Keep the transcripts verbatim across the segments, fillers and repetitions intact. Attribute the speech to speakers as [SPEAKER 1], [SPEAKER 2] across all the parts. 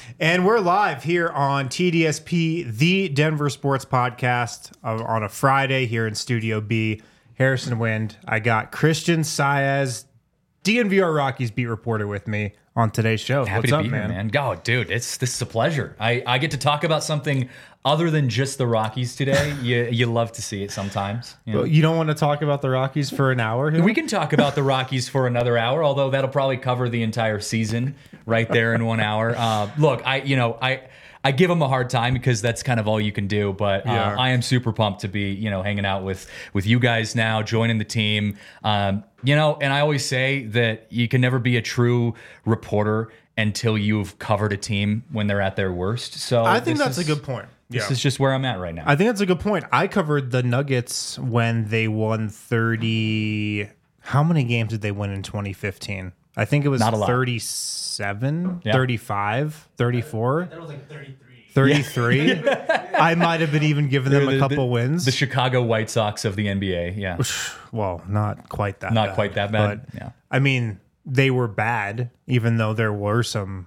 [SPEAKER 1] And we're live here on T D S P, the Denver Sports Podcast, uh, on a Friday here in Studio B. Harrison Wind. I got Christian Saez, D N V R Rockies beat reporter, with me on today's show.
[SPEAKER 2] Happy
[SPEAKER 1] What's
[SPEAKER 2] to
[SPEAKER 1] up,
[SPEAKER 2] be
[SPEAKER 1] man?
[SPEAKER 2] here, man. Oh, dude, it's this is a pleasure. I, I get to talk about something other than just the Rockies today. you you love to see it sometimes. You know?
[SPEAKER 1] Well, you don't want to talk about the Rockies for an hour here?
[SPEAKER 2] We can talk about the Rockies for another hour, although that'll probably cover the entire season right there in one hour. Uh, look, I you know I. I give them a hard time because that's kind of all you can do. But uh,
[SPEAKER 1] Yeah.
[SPEAKER 2] I am super pumped to be, you know, hanging out with with you guys now, joining the team. Um, you know, and I always say that you can never be a true reporter until you've covered a team when they're at their worst. So
[SPEAKER 1] I think
[SPEAKER 2] this
[SPEAKER 1] that's
[SPEAKER 2] is-
[SPEAKER 1] a good point.
[SPEAKER 2] This
[SPEAKER 1] Yeah.
[SPEAKER 2] is just where I'm at right now.
[SPEAKER 1] I think that's a good point. I covered the Nuggets when they won thirty. How many games did they win in twenty fifteen? I think it was
[SPEAKER 2] Not a lot.
[SPEAKER 1] thirty-seven,
[SPEAKER 2] Yeah.
[SPEAKER 1] thirty-five, thirty-four,
[SPEAKER 3] That was like thirty-three.
[SPEAKER 1] thirty-three. I might have been even giving them
[SPEAKER 2] The-
[SPEAKER 1] a couple
[SPEAKER 2] the-
[SPEAKER 1] wins.
[SPEAKER 2] The Chicago White Sox of the N B A. Yeah.
[SPEAKER 1] Well, not quite that
[SPEAKER 2] Not
[SPEAKER 1] bad.
[SPEAKER 2] quite that bad,
[SPEAKER 1] But,
[SPEAKER 2] yeah.
[SPEAKER 1] I mean, they were bad, even though there were some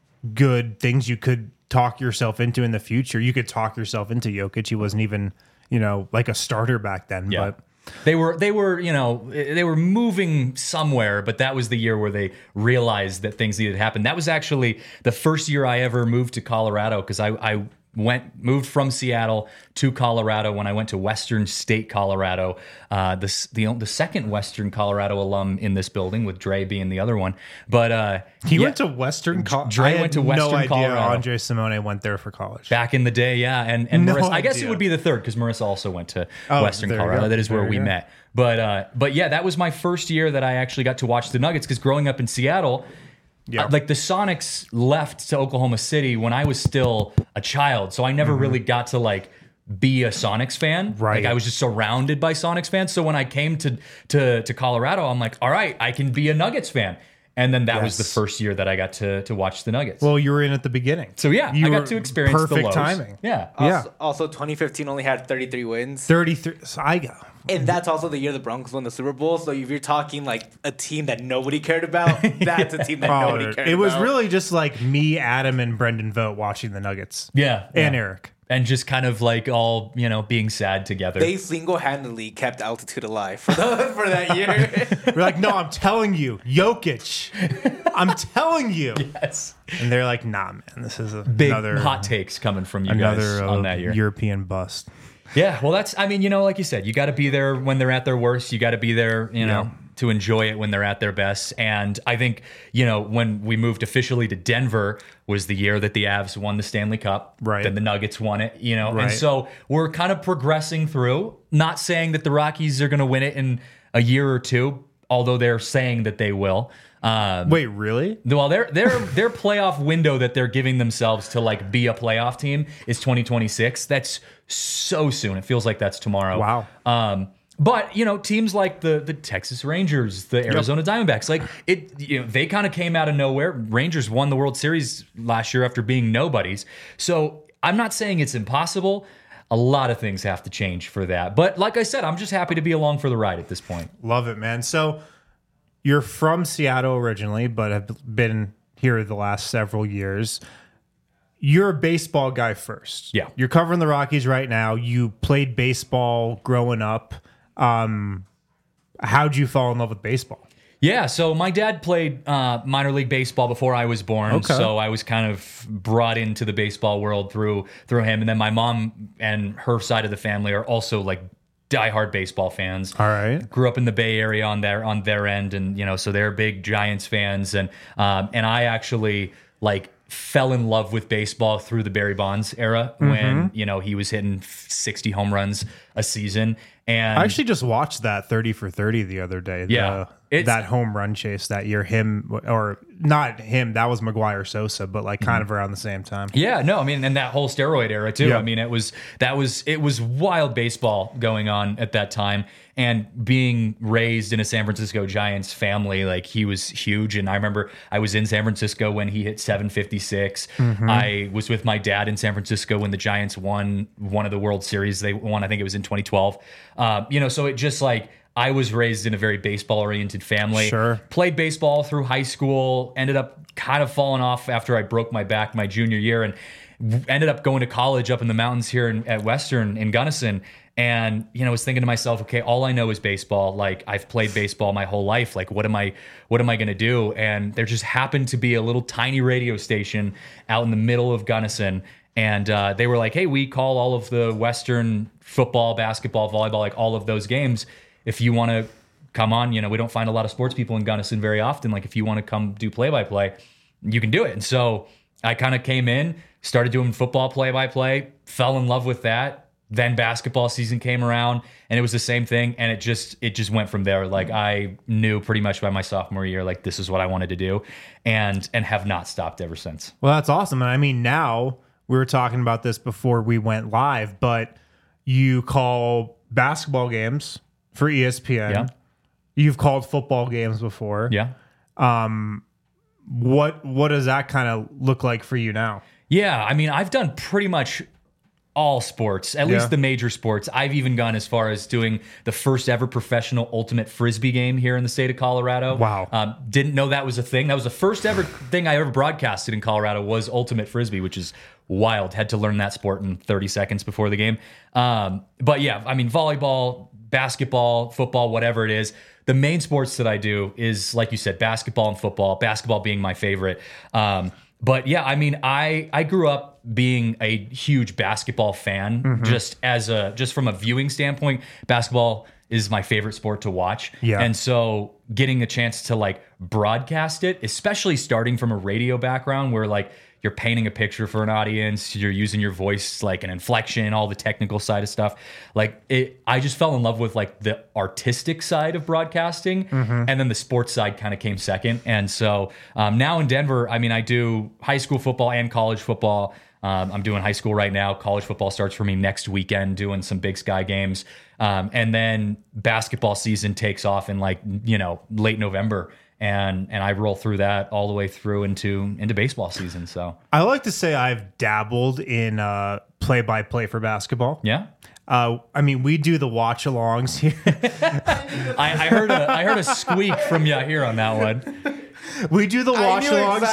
[SPEAKER 1] good things you could talk yourself into in the future. You could talk yourself into Jokic. He wasn't even, you know, like a starter back then.
[SPEAKER 2] Yeah.
[SPEAKER 1] But
[SPEAKER 2] They were, they were, you know, they were moving somewhere, but that was the year where they realized that things needed to happen. That was actually the first year I ever moved to Colorado because I, I went, moved from Seattle to Colorado when I went to Western State, Colorado. Uh, the, the the second Western Colorado alum in this building, with Dre being the other one. But uh,
[SPEAKER 1] he
[SPEAKER 2] yeah,
[SPEAKER 1] went to Western College.
[SPEAKER 2] Dre
[SPEAKER 1] I had
[SPEAKER 2] went to
[SPEAKER 1] no
[SPEAKER 2] Western
[SPEAKER 1] idea
[SPEAKER 2] Colorado.
[SPEAKER 1] Andre Simone went there for college.
[SPEAKER 2] back in the day, yeah, and and
[SPEAKER 1] No
[SPEAKER 2] Marissa, I guess it
[SPEAKER 1] idea.
[SPEAKER 2] would be the third because Marissa also went to
[SPEAKER 1] Oh,
[SPEAKER 2] Western
[SPEAKER 1] there you
[SPEAKER 2] Colorado.
[SPEAKER 1] go.
[SPEAKER 2] That is where
[SPEAKER 1] There
[SPEAKER 2] we
[SPEAKER 1] you go.
[SPEAKER 2] met. But uh, but yeah, that was my first year that I actually got to watch the Nuggets because growing up in Seattle,
[SPEAKER 1] Yeah.
[SPEAKER 2] uh, like the Sonics left to Oklahoma City when I was still a child, so I never really got to like be a Sonics fan.
[SPEAKER 1] Mm-hmm. Right.
[SPEAKER 2] Like I was just surrounded by Sonics fans. So when I came to to to Colorado, I'm like, all right, I can be a Nuggets fan. And then that was the
[SPEAKER 1] Yes.
[SPEAKER 2] first year that I got to to watch the Nuggets.
[SPEAKER 1] Well, you were in at the beginning.
[SPEAKER 2] so yeah,
[SPEAKER 1] you
[SPEAKER 2] I
[SPEAKER 1] were
[SPEAKER 2] got to experience
[SPEAKER 1] perfect
[SPEAKER 2] the lows.
[SPEAKER 1] timing.
[SPEAKER 2] Yeah.
[SPEAKER 1] Yeah.
[SPEAKER 3] Also, also, twenty fifteen only had thirty-three wins.
[SPEAKER 1] thirty-three. So I go.
[SPEAKER 3] And that's also the year the Broncos won the Super Bowl. So if you're talking like a team that nobody cared about, that's a team that
[SPEAKER 1] Oh,
[SPEAKER 3] nobody cared
[SPEAKER 1] it was
[SPEAKER 3] about.
[SPEAKER 1] really just like me, Adam, and Brendan Vogt watching the Nuggets.
[SPEAKER 2] Yeah.
[SPEAKER 1] And
[SPEAKER 2] yeah.
[SPEAKER 1] Eric.
[SPEAKER 2] And just kind of like all, you know, being sad together.
[SPEAKER 3] They single-handedly kept altitude alive for, the, for that year.
[SPEAKER 1] We're like, no, I'm telling you, Jokic. I'm telling you.
[SPEAKER 2] yes.
[SPEAKER 1] And they're like, nah, man, this is a,
[SPEAKER 2] Big
[SPEAKER 1] another
[SPEAKER 2] hot takes coming from you
[SPEAKER 1] another
[SPEAKER 2] guys
[SPEAKER 1] uh,
[SPEAKER 2] on that year.
[SPEAKER 1] European bust.
[SPEAKER 2] Yeah. Well, that's, I mean, you know, like you said, you got to be there when they're at their worst. You got to be there, you know,
[SPEAKER 1] Yeah.
[SPEAKER 2] to enjoy it when they're at their best. And I think, you know, when we moved officially to Denver was the year that the Avs won the Stanley Cup.
[SPEAKER 1] Right.
[SPEAKER 2] Then the Nuggets won it, you know.
[SPEAKER 1] Right.
[SPEAKER 2] And so we're kind of progressing through, not saying that the Rockies are going to win it in a year or two, although they're saying that they will. Um,
[SPEAKER 1] Wait, really?
[SPEAKER 2] Well, their their their playoff window that they're giving themselves to like be a playoff team is twenty twenty-six. That's so soon. It feels like that's tomorrow.
[SPEAKER 1] Wow.
[SPEAKER 2] Um, but you know, teams like the the Texas Rangers, the Arizona Diamondbacks, like it, you know, they kind of came out of nowhere. Rangers won the World Series last year after being nobodies. So I'm not saying it's impossible. A lot of things have to change for that. But like I said, I'm just happy to be along for the ride at this point.
[SPEAKER 1] Love it, man. So you're from Seattle originally, but have been here the last several years. You're a baseball guy first.
[SPEAKER 2] Yeah.
[SPEAKER 1] You're covering the Rockies right now. You played baseball growing up. Um, how'd you fall in love with baseball?
[SPEAKER 2] Yeah, so my dad played uh, minor league baseball before I was born,
[SPEAKER 1] Okay.
[SPEAKER 2] so I was kind of brought into the baseball world through through him. And then my mom and her side of the family are also like diehard baseball fans.
[SPEAKER 1] All right.
[SPEAKER 2] Grew up in the Bay Area on their on their end, and you know, so they're big Giants fans. And um, and I actually like fell in love with baseball through the Barry Bonds era when you know he was hitting sixty home runs a season. And
[SPEAKER 1] I actually just watched that thirty for thirty the other day. The-
[SPEAKER 2] Yeah. It's-
[SPEAKER 1] that home run chase that year. Him, or not him, that was Maguire Sosa, but like kind of around the same time.
[SPEAKER 2] Yeah, no, I mean, and that whole steroid era too.
[SPEAKER 1] Yeah.
[SPEAKER 2] I mean, it was that was it was wild baseball going on at that time, and being raised in a San Francisco Giants family, like he was huge. And I remember I was in San Francisco when he hit seven fifty-six. I was with my dad in San Francisco when the Giants won one of the World Series. They won, I think it was in twenty twelve. Uh, you know, so it just like I was raised in a very baseball-oriented family.
[SPEAKER 1] Sure.
[SPEAKER 2] Played baseball through high school, ended up kind of falling off after I broke my back my junior year, and w- ended up going to college up in the mountains here in, at Western in Gunnison. And, you know, was thinking to myself, okay, all I know is baseball. Like, I've played baseball my whole life. Like, what am I, what am I going to do? And there just happened to be a little tiny radio station out in the middle of Gunnison. And uh, they were like, hey, we call all of the Western football, basketball, volleyball, like all of those games. If you want to come on, you know, we don't find a lot of sports people in Gunnison very often. Like, if you want to come do play-by-play, you can do it. And so I kind of came in, started doing football play-by-play, fell in love with that. Then basketball season came around and it was the same thing. And it just, it just went from there. Like, I knew pretty much by my sophomore year, like, this is what I wanted to do, and, and have not stopped ever since.
[SPEAKER 1] Well, that's awesome. And I mean, now we were talking about this before we went live, but you call basketball games for E S P N.
[SPEAKER 2] Yeah.
[SPEAKER 1] You've called football games before.
[SPEAKER 2] Yeah.
[SPEAKER 1] What, what does that kind of look like for you now?
[SPEAKER 2] Yeah. I mean, I've done pretty much all sports, at
[SPEAKER 1] Yeah.
[SPEAKER 2] least the major sports. I've even gone as far as doing the first ever professional ultimate frisbee game here in the state of Colorado.
[SPEAKER 1] Wow.
[SPEAKER 2] Um, didn't know that was a thing. That was the first ever thing I ever broadcasted in Colorado was ultimate frisbee, which is wild. Had to learn that sport in thirty seconds before the game. Um, but yeah, I mean, volleyball, basketball, football, whatever it is. The main sports that I do is, like you said, basketball and football, basketball being my favorite. Um, But yeah, I mean, I I grew up being a huge basketball fan,
[SPEAKER 1] Mm-hmm.
[SPEAKER 2] just as a just from a viewing standpoint. Basketball is my favorite sport to watch,
[SPEAKER 1] Yeah.
[SPEAKER 2] and so getting a chance to like broadcast it, especially starting from a radio background, where like you're painting a picture for an audience, you're using your voice like an inflection, all the technical side of stuff. Like it, I just fell in love with like the artistic side of broadcasting,
[SPEAKER 1] Mm-hmm.
[SPEAKER 2] and then the sports side kind of came second. And so um, now in Denver, I mean, I do high school football and college football. Um, I'm doing high school right now. College football starts for me next weekend, doing some Big Sky games. Um, and then basketball season takes off in like, you know, late November. And and I roll through that all the way through into into baseball season. So
[SPEAKER 1] I like to say I've dabbled in uh, play-by-play for basketball.
[SPEAKER 2] yeah,
[SPEAKER 1] Uh, I mean, we do the watch-alongs here.
[SPEAKER 2] I, I heard a I heard a squeak from you here on that one.
[SPEAKER 1] We do the watch-alongs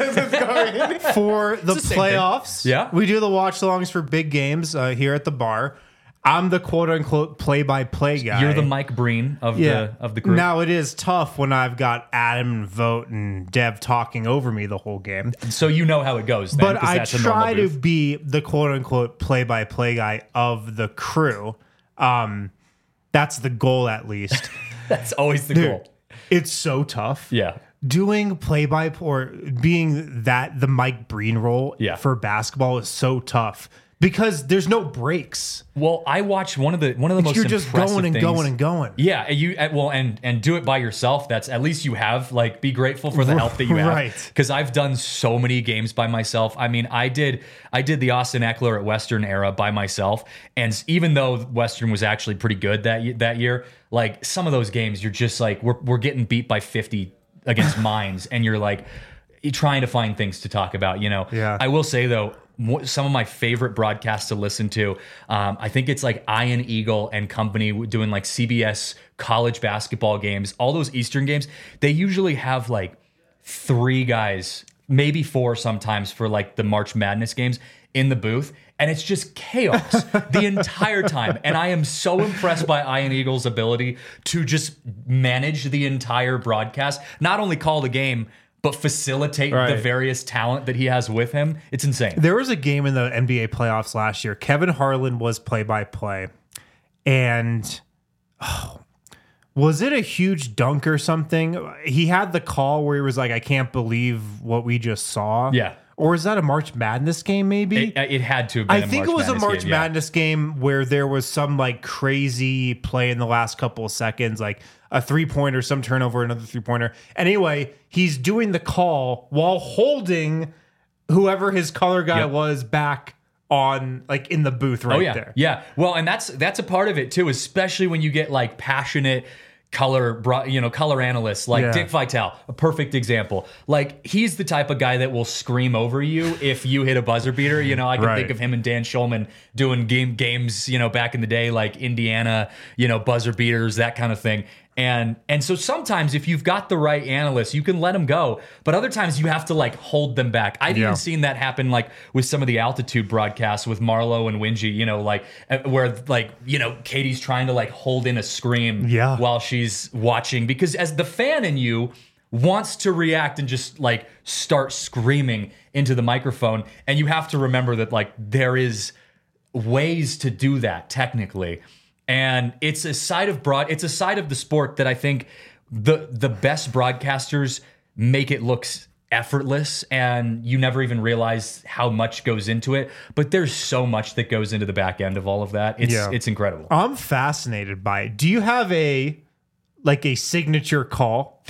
[SPEAKER 1] here for the,
[SPEAKER 2] the same
[SPEAKER 1] playoffs.
[SPEAKER 2] thing. Yeah.
[SPEAKER 1] We do the watch-alongs for big games uh, here at the bar. I'm the quote-unquote play-by-play guy.
[SPEAKER 2] You're the Mike Breen of
[SPEAKER 1] yeah.
[SPEAKER 2] the of the group.
[SPEAKER 1] Now, it is tough when I've got Adam and Vogt and Dev talking over me the whole game.
[SPEAKER 2] So you know how it goes. Then,
[SPEAKER 1] But
[SPEAKER 2] 'cause
[SPEAKER 1] I
[SPEAKER 2] that's a normal
[SPEAKER 1] try to
[SPEAKER 2] booth.
[SPEAKER 1] be the quote-unquote play-by-play guy of the crew. Um, that's the goal, at least.
[SPEAKER 2] That's always the
[SPEAKER 1] Dude,
[SPEAKER 2] goal.
[SPEAKER 1] it's so tough.
[SPEAKER 2] Yeah.
[SPEAKER 1] Doing play-by or being that the Mike Breen role
[SPEAKER 2] Yeah.
[SPEAKER 1] for basketball is so tough because there's no breaks.
[SPEAKER 2] Well, I watched one of the one of the most
[SPEAKER 1] You're just
[SPEAKER 2] impressive
[SPEAKER 1] going and
[SPEAKER 2] things.
[SPEAKER 1] going and going.
[SPEAKER 2] Yeah, and you uh, well, and and do it by yourself. That's at least you have like be grateful for the help that you have.
[SPEAKER 1] Right.
[SPEAKER 2] Because I've done so many games by myself. I mean, I did I did the Austin Eckler at Western era by myself, and even though Western was actually pretty good that ye- that year, like some of those games, you're just like we're we're getting beat by fifty against Mines, and you're like you're trying to find things to talk about. You know.
[SPEAKER 1] Yeah.
[SPEAKER 2] I will say though. mo- Some of my favorite broadcasts to listen to, um, I think it's like Ian Eagle and company doing like C B S college basketball games. All those Eastern games, they usually have like three guys, maybe four sometimes for like the March Madness games in the booth. And it's just chaos the entire time. And I am so impressed by Ian Eagle's ability to just manage the entire broadcast, not only call the game, but facilitate the
[SPEAKER 1] Right.
[SPEAKER 2] various talent that he has with him. It's insane.
[SPEAKER 1] There was a game in the N B A playoffs last year. Kevin Harlan was play-by-play. And oh, was it a huge dunk or something? He had the call where he was like, I can't believe what we just saw.
[SPEAKER 2] Yeah.
[SPEAKER 1] Or is that a March Madness game maybe?
[SPEAKER 2] It, it had to have been
[SPEAKER 1] I
[SPEAKER 2] a
[SPEAKER 1] think
[SPEAKER 2] March
[SPEAKER 1] it was
[SPEAKER 2] Madness
[SPEAKER 1] a March
[SPEAKER 2] game, yeah.
[SPEAKER 1] Madness game where there was some like crazy play in the last couple of seconds, like a three pointer, some turnover, another three pointer. Anyway, he's doing the call while holding whoever his color guy
[SPEAKER 2] Yep.
[SPEAKER 1] was back on, like in the booth right
[SPEAKER 2] Oh yeah,
[SPEAKER 1] there.
[SPEAKER 2] yeah. Well, and that's that's a part of it too, especially when you get like passionate color, bro- you know, color analysts like
[SPEAKER 1] Yeah.
[SPEAKER 2] Dick Vitale, a perfect example. Like he's the type of guy that will scream over you if you hit a buzzer beater. You know, I can
[SPEAKER 1] Right.
[SPEAKER 2] think of him and Dan Schulman doing game games, you know, back in the day, like Indiana, you know, buzzer beaters, that kind of thing. And and so sometimes if you've got the right analyst, you can let them go. But other times you have to like hold them back. I've
[SPEAKER 1] Yeah.
[SPEAKER 2] even seen that happen like with some of the altitude broadcasts with Marlo and Wingy, you know, like uh, where like, you know, Katie's trying to like hold in a scream
[SPEAKER 1] Yeah.
[SPEAKER 2] while she's watching. Because as the fan in you wants to react and just like start screaming into the microphone. And you have to remember that like there is ways to do that technically. And it's a side of broad it's a side of the sport that I think the the best broadcasters make it look effortless and you never even realize how much goes into it. But there's so much that goes into the back end of all of that. It's
[SPEAKER 1] Yeah.
[SPEAKER 2] it's incredible.
[SPEAKER 1] I'm fascinated by it. Do you have a like a signature call?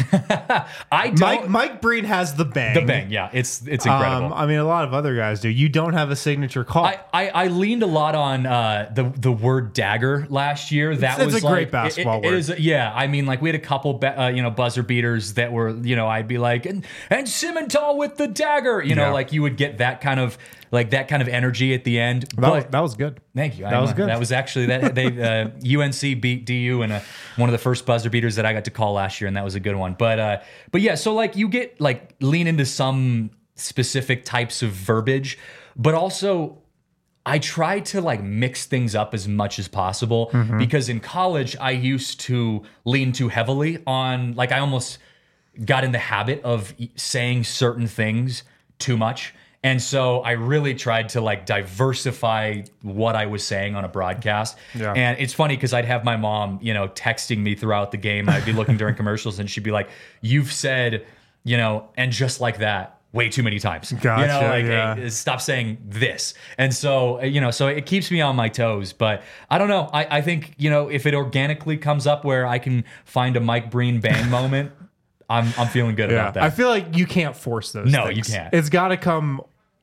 [SPEAKER 2] I don't
[SPEAKER 1] Mike Mike Breen has the bang.
[SPEAKER 2] the bang, yeah. It's it's incredible.
[SPEAKER 1] Um, I mean, a lot of other guys do. You don't have a signature call.
[SPEAKER 2] I, I, I leaned a lot on uh, the the word dagger last year. That
[SPEAKER 1] It's- it's
[SPEAKER 2] was
[SPEAKER 1] a great
[SPEAKER 2] like,
[SPEAKER 1] basketball
[SPEAKER 2] it- it
[SPEAKER 1] word.
[SPEAKER 2] is- yeah, I mean, like we had a couple, be, uh, you know, buzzer beaters that were, you know, I'd be like, and and Simmental with the dagger, you know,
[SPEAKER 1] Yeah.
[SPEAKER 2] like you would get that kind of like that kind of energy at the end.
[SPEAKER 1] that,
[SPEAKER 2] but
[SPEAKER 1] was, that was good.
[SPEAKER 2] thank you.
[SPEAKER 1] that was good.
[SPEAKER 2] That was actually that they uh, U N C beat D U in a, one of the first buzzer beaters that I got to call last year, and that was a good one. But uh, but yeah, so like you get like lean into some specific types of verbiage, but also I try to like mix things up as much as possible because in college I used to lean too heavily on like I almost got in the habit of e- saying certain things too much. And so I really tried to like diversify what I was saying on a broadcast.
[SPEAKER 1] Yeah.
[SPEAKER 2] And it's funny because I'd have my mom, you know, texting me throughout the game. I'd be looking during commercials and she'd be like, "You've said, you know, and just like that way too many times." You know,
[SPEAKER 1] Gotcha,
[SPEAKER 2] like,
[SPEAKER 1] yeah.
[SPEAKER 2] hey, stop saying this. And so, uh, you know, so it keeps me on my toes. But I don't know. I, I think, you know, if it organically comes up where I can find a Mike Breen bang moment, I'm I'm feeling good about that.
[SPEAKER 1] I feel like you can't force those.
[SPEAKER 2] No,
[SPEAKER 1] things.
[SPEAKER 2] you can't.
[SPEAKER 1] It's got to come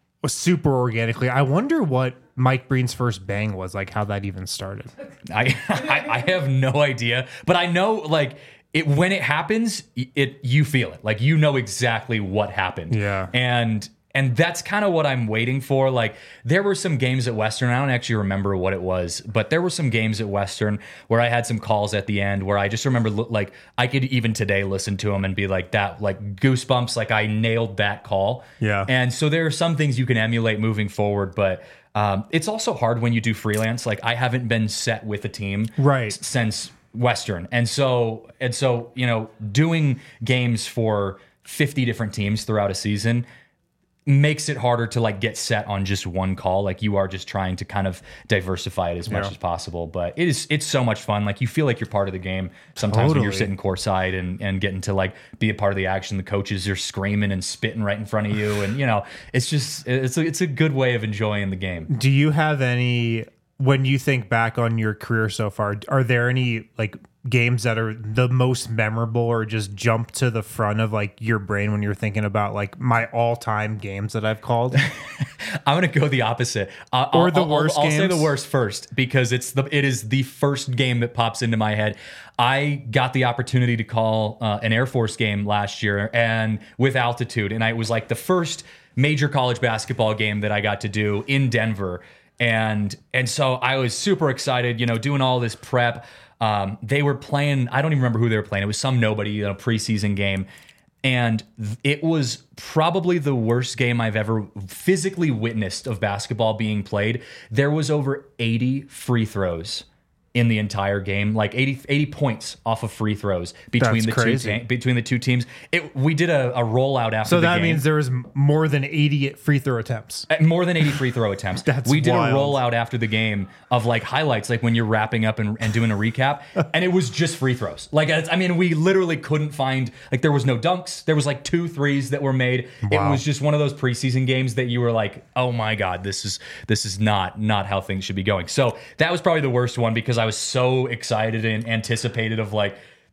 [SPEAKER 1] super organically. I wonder what Mike Breen's first bang was, like how that even started.
[SPEAKER 2] I, I I have no idea, but I know like it when it happens, it you feel it, like you know exactly what happened.
[SPEAKER 1] Yeah.
[SPEAKER 2] and and that's kind of what I'm waiting for. Like there were some games at Western, I don't actually remember what it was, but there were some games at Western where I had some calls at the end where I just remember lo- like I could even today listen to them and be like that, like goosebumps, like I nailed that call.
[SPEAKER 1] Yeah.
[SPEAKER 2] And so there are some things you can emulate moving forward, but um, it's also hard when you do freelance. Like I haven't been set with a team
[SPEAKER 1] Right.
[SPEAKER 2] s- since Western, and so and so you know doing games for fifty different teams throughout a season makes it harder to like get set on just one call. Like you are just trying to kind of diversify it as much
[SPEAKER 1] Yeah.
[SPEAKER 2] as possible. But it is it's so much fun. Like you feel like you're part of the game sometimes when you're
[SPEAKER 1] Totally.
[SPEAKER 2] sitting courtside and and getting to like be a part of the action. The coaches are screaming and spitting right in front of you, and you know it's just it's a, it's a good way of enjoying the game.
[SPEAKER 1] Do you have any, when you think back on your career so far, are there any like games that are the most memorable or just jump to the front of like your brain when you're thinking about like my all-time games that I've called?
[SPEAKER 2] I'm gonna go the opposite. Uh,
[SPEAKER 1] Or
[SPEAKER 2] I'll-
[SPEAKER 1] the
[SPEAKER 2] I'll-
[SPEAKER 1] worst
[SPEAKER 2] I'll, I'll say the
[SPEAKER 1] games?
[SPEAKER 2] worst first because it's the it is the first game that pops into my head. I got the opportunity to call uh, an Air Force game last year and with altitude, and I, it was like the first major college basketball game that I got to do in Denver, and and so I was super excited. You know, doing all this prep. Um, they were playing. I don't even remember who they were playing. It was some nobody, you know, preseason game. And th- it was probably the worst game I've ever physically witnessed of basketball being played. There was over eighty free throws in the entire game, like eighty, eighty points off of free throws between
[SPEAKER 1] That's
[SPEAKER 2] the
[SPEAKER 1] crazy.
[SPEAKER 2] two ta- between the two teams. It, we did a, a rollout after
[SPEAKER 1] So
[SPEAKER 2] the
[SPEAKER 1] that
[SPEAKER 2] game.
[SPEAKER 1] means there was m- more than eighty free throw attempts.
[SPEAKER 2] Uh, More than eighty free throw attempts.
[SPEAKER 1] That's
[SPEAKER 2] we did
[SPEAKER 1] wild.
[SPEAKER 2] a rollout after the game of like highlights, like when you're wrapping up and, and doing a recap, and it was just free throws. Like, it's, I mean, we literally couldn't find, like, there was no dunks. There was like two threes that were made.
[SPEAKER 1] Wow.
[SPEAKER 2] It was just one of those preseason games that you were like, oh my God, this is this is not not how things should be going. So that was probably the worst one because I was so excited and anticipated of like,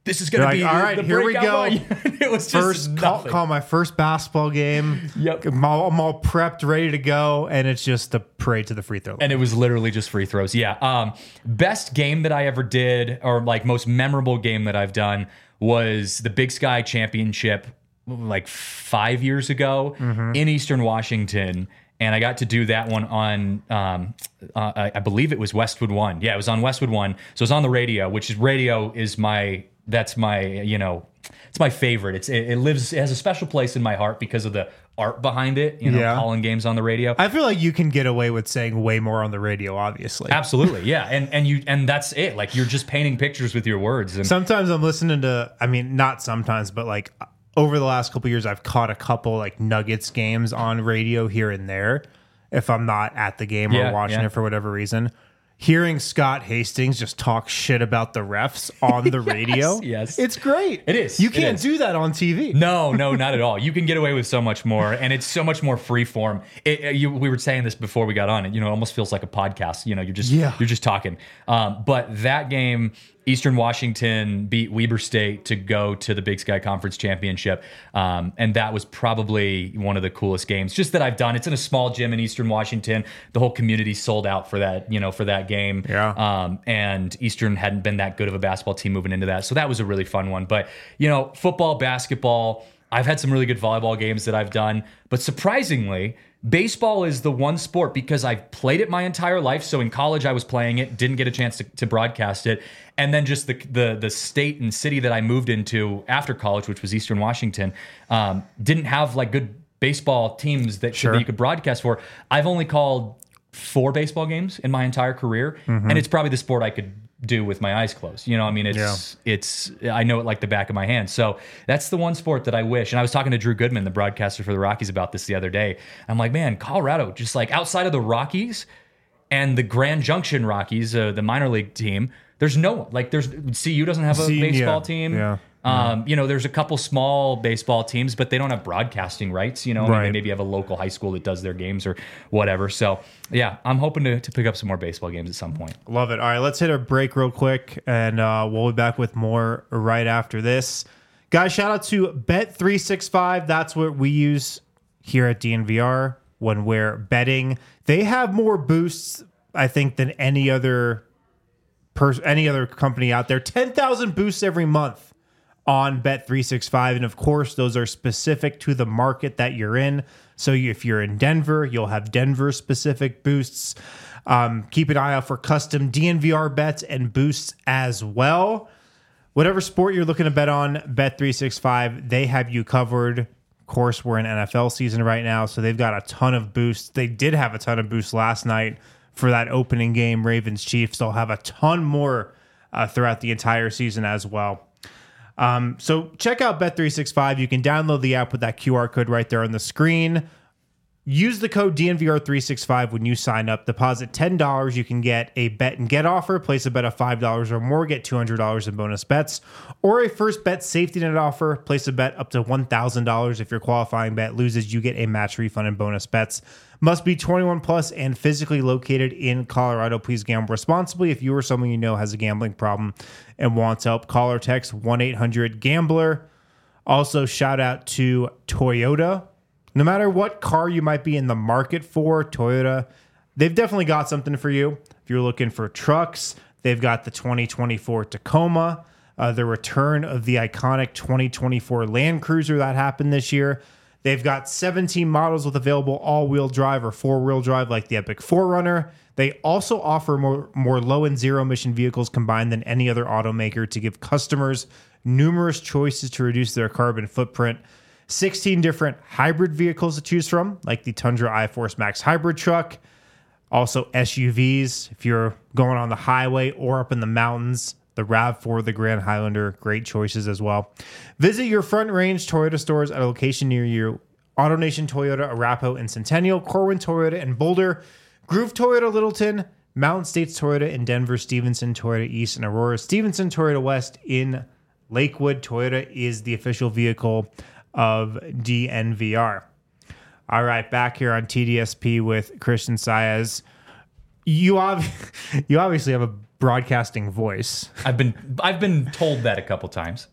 [SPEAKER 2] this is going to
[SPEAKER 1] You're
[SPEAKER 2] be
[SPEAKER 1] like, all
[SPEAKER 2] the,
[SPEAKER 1] right,
[SPEAKER 2] the
[SPEAKER 1] here we
[SPEAKER 2] breakout
[SPEAKER 1] go.
[SPEAKER 2] moment." It was just
[SPEAKER 1] First call,
[SPEAKER 2] nothing.
[SPEAKER 1] call my first basketball game.
[SPEAKER 2] Yep.
[SPEAKER 1] I'm all, I'm all prepped, ready to go, and it's just a parade to the free throw line.
[SPEAKER 2] And it was literally just free throws. Yeah. Um, best game that I ever did, or like most memorable game that I've done, was the Big Sky Championship like five years ago
[SPEAKER 1] Mm-hmm.
[SPEAKER 2] in Eastern Washington. And I got to do that one on, um, uh, I, I believe it was Westwood One. Yeah, it was on Westwood One. So it was on the radio, which is radio is my, that's my, you know, it's my favorite. It's it, it lives, it has a special place in my heart because of the art behind it. You know,
[SPEAKER 1] Yeah.
[SPEAKER 2] calling games on the radio.
[SPEAKER 1] I feel like you can get away with saying way more on the radio, obviously.
[SPEAKER 2] Absolutely, yeah, and and you and that's it. Like you're just painting pictures with your words. And
[SPEAKER 1] Sometimes I'm listening to, I mean, not sometimes, but like over the last couple of years, I've caught a couple like Nuggets games on radio here and there if I'm not at the game
[SPEAKER 2] Yeah,
[SPEAKER 1] or watching
[SPEAKER 2] yeah.
[SPEAKER 1] it for whatever reason. Hearing Scott Hastings just talk shit about the refs on the radio,
[SPEAKER 2] yes.
[SPEAKER 1] it's great.
[SPEAKER 2] It is,
[SPEAKER 1] You
[SPEAKER 2] it
[SPEAKER 1] can't
[SPEAKER 2] is.
[SPEAKER 1] do that on T V.
[SPEAKER 2] no, no, not at all. You can get away with so much more, and it's so much more free form. It, uh, you, we were saying this before we got on. It you know it almost feels like a podcast. You know, you're just
[SPEAKER 1] Yeah.
[SPEAKER 2] you're just talking. Um, but that game, Eastern Washington beat Weber State to go to the Big Sky Conference Championship, um, and that was probably one of the coolest games just that I've done. It's in a small gym in Eastern Washington. The whole community sold out for that. You know, for that game.
[SPEAKER 1] Yeah.
[SPEAKER 2] Um, and Eastern hadn't been that good of a basketball team moving into that. So that was a really fun one. But, you know, football, basketball, I've had some really good volleyball games that I've done. But surprisingly, baseball is the one sport because I've played it my entire life. So in college, I was playing it, didn't get a chance to, to broadcast it. And then just the, the the state and city that I moved into after college, which was Eastern Washington, um, didn't have like good baseball teams that,
[SPEAKER 1] Sure.
[SPEAKER 2] that you could broadcast for. I've only called four baseball games in my entire career, and it's probably the sport I could do with my eyes closed. You know, I mean, it's it's I know it like the back of my hand. So that's the one sport that I wish. And I was talking to Drew Goodman, the broadcaster for the Rockies, about this the other day. I'm like, man, Colorado, just like outside of the Rockies and the Grand Junction Rockies, uh, the minor league team, there's no one. Like, there's C U doesn't have a
[SPEAKER 1] C-
[SPEAKER 2] baseball
[SPEAKER 1] yeah,
[SPEAKER 2] team.
[SPEAKER 1] yeah.
[SPEAKER 2] Um, you know, there's a couple small baseball teams, but they don't have broadcasting rights. You know, I mean,
[SPEAKER 1] Right.
[SPEAKER 2] they maybe have a local high school that does their games or whatever. So, yeah, I'm hoping to, to pick up some more baseball games at some point.
[SPEAKER 1] Love it. All right, let's hit a break real quick, and uh, we'll be back with more right after this. Guys, shout out to Bet three sixty-five. That's what we use here at D N V R when we're betting. They have more boosts, I think, than any other pers- any other company out there. ten thousand boosts every month on Bet three sixty-five. And of course, those are specific to the market that you're in. So if you're in Denver, you'll have Denver specific boosts. Um, keep an eye out for custom D N V R bets and boosts as well. Whatever sport you're looking to bet on, Bet three sixty-five, they have you covered. Of course, we're in N F L season right now, so they've got a ton of boosts. They did have a ton of boosts last night for that opening game, Ravens-Chiefs. They'll have a ton more uh, throughout the entire season as well. Um, so check out Bet three sixty-five. You can download the app with that Q R code right there on the screen. Use the code D N V R three sixty-five when you sign up. Deposit ten dollars. You can get a bet and get offer. Place a bet of five dollars or more. Get two hundred dollars in bonus bets. Or a first bet safety net offer. Place a bet up to one thousand dollars. If your qualifying bet loses, you get a match refund and bonus bets. Must be twenty-one plus and physically located in Colorado. Please gamble responsibly. If you or someone you know has a gambling problem and wants help, call or text one eight hundred gambler. Also, shout out to Toyota. No matter what car you might be in the market for, Toyota, they've definitely got something for you. If you're looking for trucks, they've got the twenty twenty-four Tacoma, uh, the return of the iconic twenty twenty-four Land Cruiser that happened this year. They've got seventeen models with available all-wheel drive or four-wheel drive like the Epic four runner. They also offer more, more low and zero-emission vehicles combined than any other automaker to give customers numerous choices to reduce their carbon footprint. sixteen different hybrid vehicles to choose from, like the Tundra iForce Max hybrid truck. Also S U Vs, if you're going on the highway or up in the mountains. The RAV four, the Grand Highlander, great choices as well. Visit your Front Range Toyota stores at a location near you. AutoNation Toyota, Arapahoe and Centennial, Corwin Toyota in Boulder, Groove Toyota Littleton, Mountain States Toyota in Denver, Stevenson Toyota East and Aurora, Stevenson Toyota West in Lakewood. Toyota is the official vehicle of D N V R. All right, back here on T D S P with Christian Saez. You, ob- you obviously have a broadcasting voice.
[SPEAKER 2] I've been I've been told that a couple times.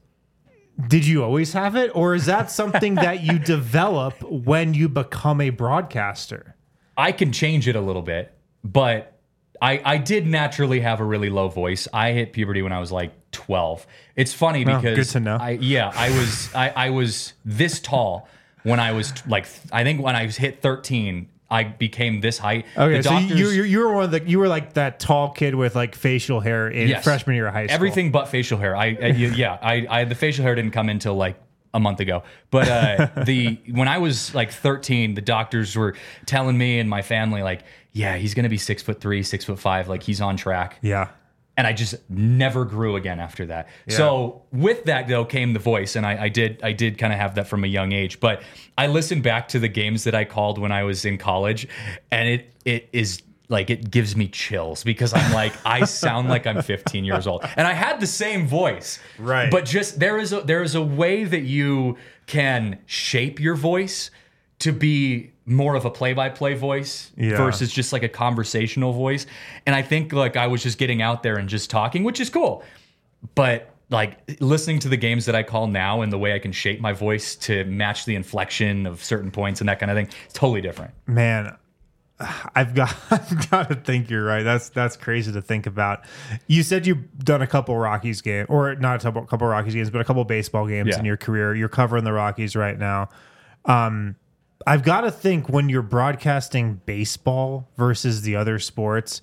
[SPEAKER 1] Did you always have it, or is that something that you develop when you become a broadcaster?
[SPEAKER 2] I can change it a little bit, but I, I did naturally have a really low voice. I hit puberty when I was like twelve. It's funny
[SPEAKER 1] Oh,
[SPEAKER 2] because
[SPEAKER 1] good to know.
[SPEAKER 2] I, yeah, I was I, I was this tall when I was like I think when I hit thirteen, I became this height.
[SPEAKER 1] Okay,
[SPEAKER 2] The
[SPEAKER 1] so
[SPEAKER 2] doctors-
[SPEAKER 1] you, you you were one of the you were like that tall kid with like facial hair in
[SPEAKER 2] Yes.
[SPEAKER 1] freshman year of high school.
[SPEAKER 2] Everything but facial hair. I, I yeah, I, I the facial hair didn't come until like a month ago. But uh, the when I was like thirteen, the doctors were telling me and my family like, yeah, he's gonna be six foot three, six foot five, like he's on track.
[SPEAKER 1] Yeah.
[SPEAKER 2] And I just never grew again after that. So with that though came the voice, and I, I did I did kind of have that from a young age. But I listened back to the games that I called when I was in college, and it it is like it gives me chills because I'm like I sound like I'm fifteen years old, and I had the same voice,
[SPEAKER 1] Right.
[SPEAKER 2] But just there is a there is a way that you can shape your voice to be more of a play-by-play voice
[SPEAKER 1] Yeah.
[SPEAKER 2] versus just like a conversational voice. And I think like I was just getting out there and just talking, which is cool. But like listening to the games that I call now and the way I can shape my voice to match the inflection of certain points and that kind of thing, it's totally different.
[SPEAKER 1] Man, I've got I've got to think you're right. That's that's crazy to think about. You said you've done a couple Rockies game, or not a couple, couple Rockies games, but a couple baseball games
[SPEAKER 2] Yeah.
[SPEAKER 1] in your career. You're covering the Rockies right now. Um, I've got to think when you're broadcasting baseball versus the other sports,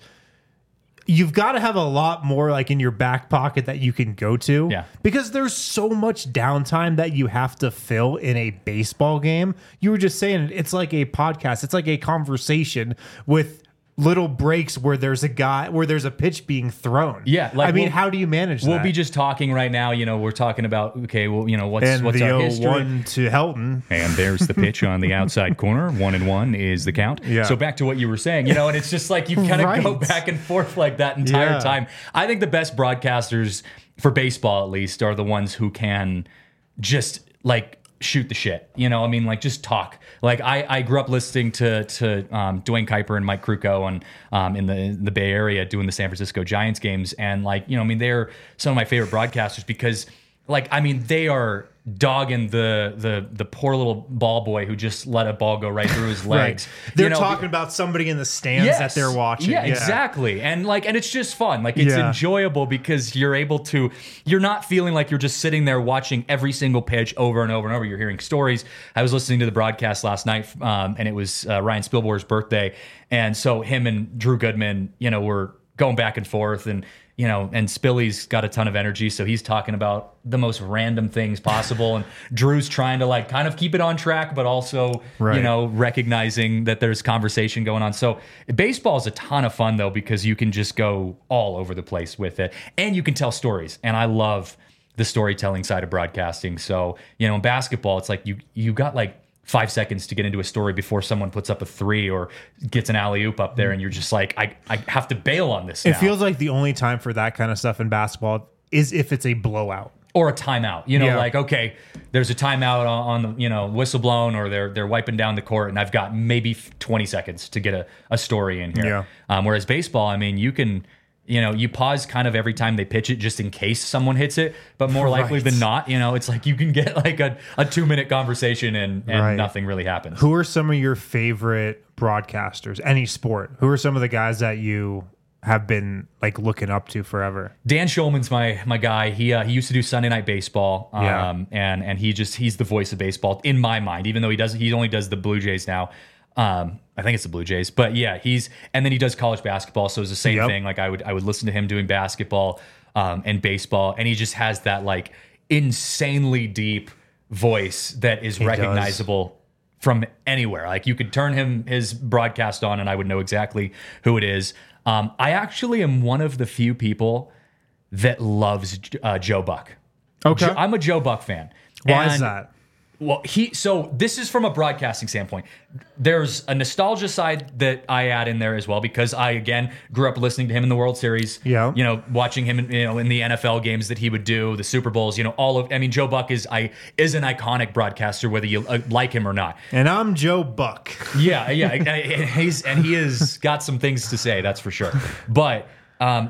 [SPEAKER 1] you've got to have a lot more like in your back pocket that you can go to.
[SPEAKER 2] Yeah.
[SPEAKER 1] Because there's so much downtime that you have to fill in a baseball game. You were just saying it's like a podcast. It's like a conversation with little breaks where there's a guy where there's a pitch being thrown.
[SPEAKER 2] Yeah, like
[SPEAKER 1] I mean,
[SPEAKER 2] we'll-
[SPEAKER 1] how do you manage
[SPEAKER 2] We'll
[SPEAKER 1] that?
[SPEAKER 2] be just talking right now. You know, we're talking about, okay, well, you know, what's,
[SPEAKER 1] and
[SPEAKER 2] what's
[SPEAKER 1] the
[SPEAKER 2] our
[SPEAKER 1] oh
[SPEAKER 2] history?
[SPEAKER 1] one to Helton.
[SPEAKER 2] And there's the pitch on the outside corner. One and one is the count.
[SPEAKER 1] Yeah.
[SPEAKER 2] So back to what you were saying, you know, and it's just like you kind of go
[SPEAKER 1] Right.
[SPEAKER 2] back and forth like that entire
[SPEAKER 1] Yeah.
[SPEAKER 2] time. I think the best broadcasters for baseball, at least, are the ones who can just like shoot the shit. You know, I mean, like just talk. Like I, I grew up listening to to um, Dwayne Kuiper and Mike Krukow and um, in the in the Bay Area doing the San Francisco Giants games, and like you know, I mean, they're some of my favorite broadcasters because, like, I mean, they are dogging the the the poor little ball boy who just let a ball go right through his legs.
[SPEAKER 1] Right. They're
[SPEAKER 2] You know,
[SPEAKER 1] talking about somebody in the stands
[SPEAKER 2] Yes.
[SPEAKER 1] that they're watching.
[SPEAKER 2] Yeah, exactly. And like, and it's just fun. Like, it's
[SPEAKER 1] Yeah.
[SPEAKER 2] enjoyable because you're able to. You're not feeling like you're just sitting there watching every single pitch over and over and over. You're hearing stories. I was listening to the broadcast last night, um, and it was uh, Ryan Spielborg's birthday, and so him and Drew Goodman, you know, were going back and forth, and you know, and Spilly's got a ton of energy, so he's talking about the most random things possible, and Drew's trying to like kind of keep it on track, but also,
[SPEAKER 1] Right.
[SPEAKER 2] you know, recognizing that there's conversation going on. So baseball is a ton of fun though, because you can just go all over the place with it, and you can tell stories. And I love the storytelling side of broadcasting. So, you know, in basketball, it's like you you got like five seconds to get into a story before someone puts up a three or gets an alley-oop up there, and you're just like, I, I have to bail on this
[SPEAKER 1] It
[SPEAKER 2] now.
[SPEAKER 1] feels like the only time for that kind of stuff in basketball is if it's a blowout.
[SPEAKER 2] Or a timeout, you know,
[SPEAKER 1] Yeah.
[SPEAKER 2] like, okay, there's a timeout on, on the, you know, whistle blown, or they're they're wiping down the court, and I've got maybe twenty seconds to get a, a story in here.
[SPEAKER 1] Yeah.
[SPEAKER 2] Um, whereas baseball, I mean, you can, you know, you pause kind of every time they pitch it just in case someone hits it, but more likely
[SPEAKER 1] Right.
[SPEAKER 2] than not, you know, it's like you can get like a, a two minute conversation and, and
[SPEAKER 1] Right.
[SPEAKER 2] nothing really happens.
[SPEAKER 1] Who are some of your favorite broadcasters? Any sport. Who are some of the guys that you have been like looking up to forever?
[SPEAKER 2] Dan Schulman's my my guy. He uh, he used to do Sunday Night Baseball, um,
[SPEAKER 1] Yeah.
[SPEAKER 2] and and he just he's the voice of baseball in my mind. Even though he does he only does the Blue Jays now. Um, I think it's the Blue Jays, but yeah, he's and then he does college basketball, so it's the same
[SPEAKER 1] Yep.
[SPEAKER 2] thing. Like I would I would listen to him doing basketball um, and baseball, and he just has that like insanely deep voice that is
[SPEAKER 1] does.
[SPEAKER 2] recognizable from anywhere. Like you could turn him his broadcast on, and I would know exactly who it is. Um, I actually am one of the few people that loves uh, Joe Buck.
[SPEAKER 1] Okay.
[SPEAKER 2] Jo- I'm a Joe Buck fan.
[SPEAKER 1] Why is
[SPEAKER 2] And-
[SPEAKER 1] that?
[SPEAKER 2] Well, he so this is from a broadcasting standpoint. There's a nostalgia side that I add in there as well, because I again grew up listening to him in the World Series.
[SPEAKER 1] Yeah.
[SPEAKER 2] You know, watching him in, you know in the N F L games that he would do, the Super Bowls. You know, all of. I mean, Joe Buck is I is an iconic broadcaster, whether you uh, like him or not.
[SPEAKER 1] And I'm Joe Buck.
[SPEAKER 2] Yeah, yeah, and he's and he has got some things to say, that's for sure. But um,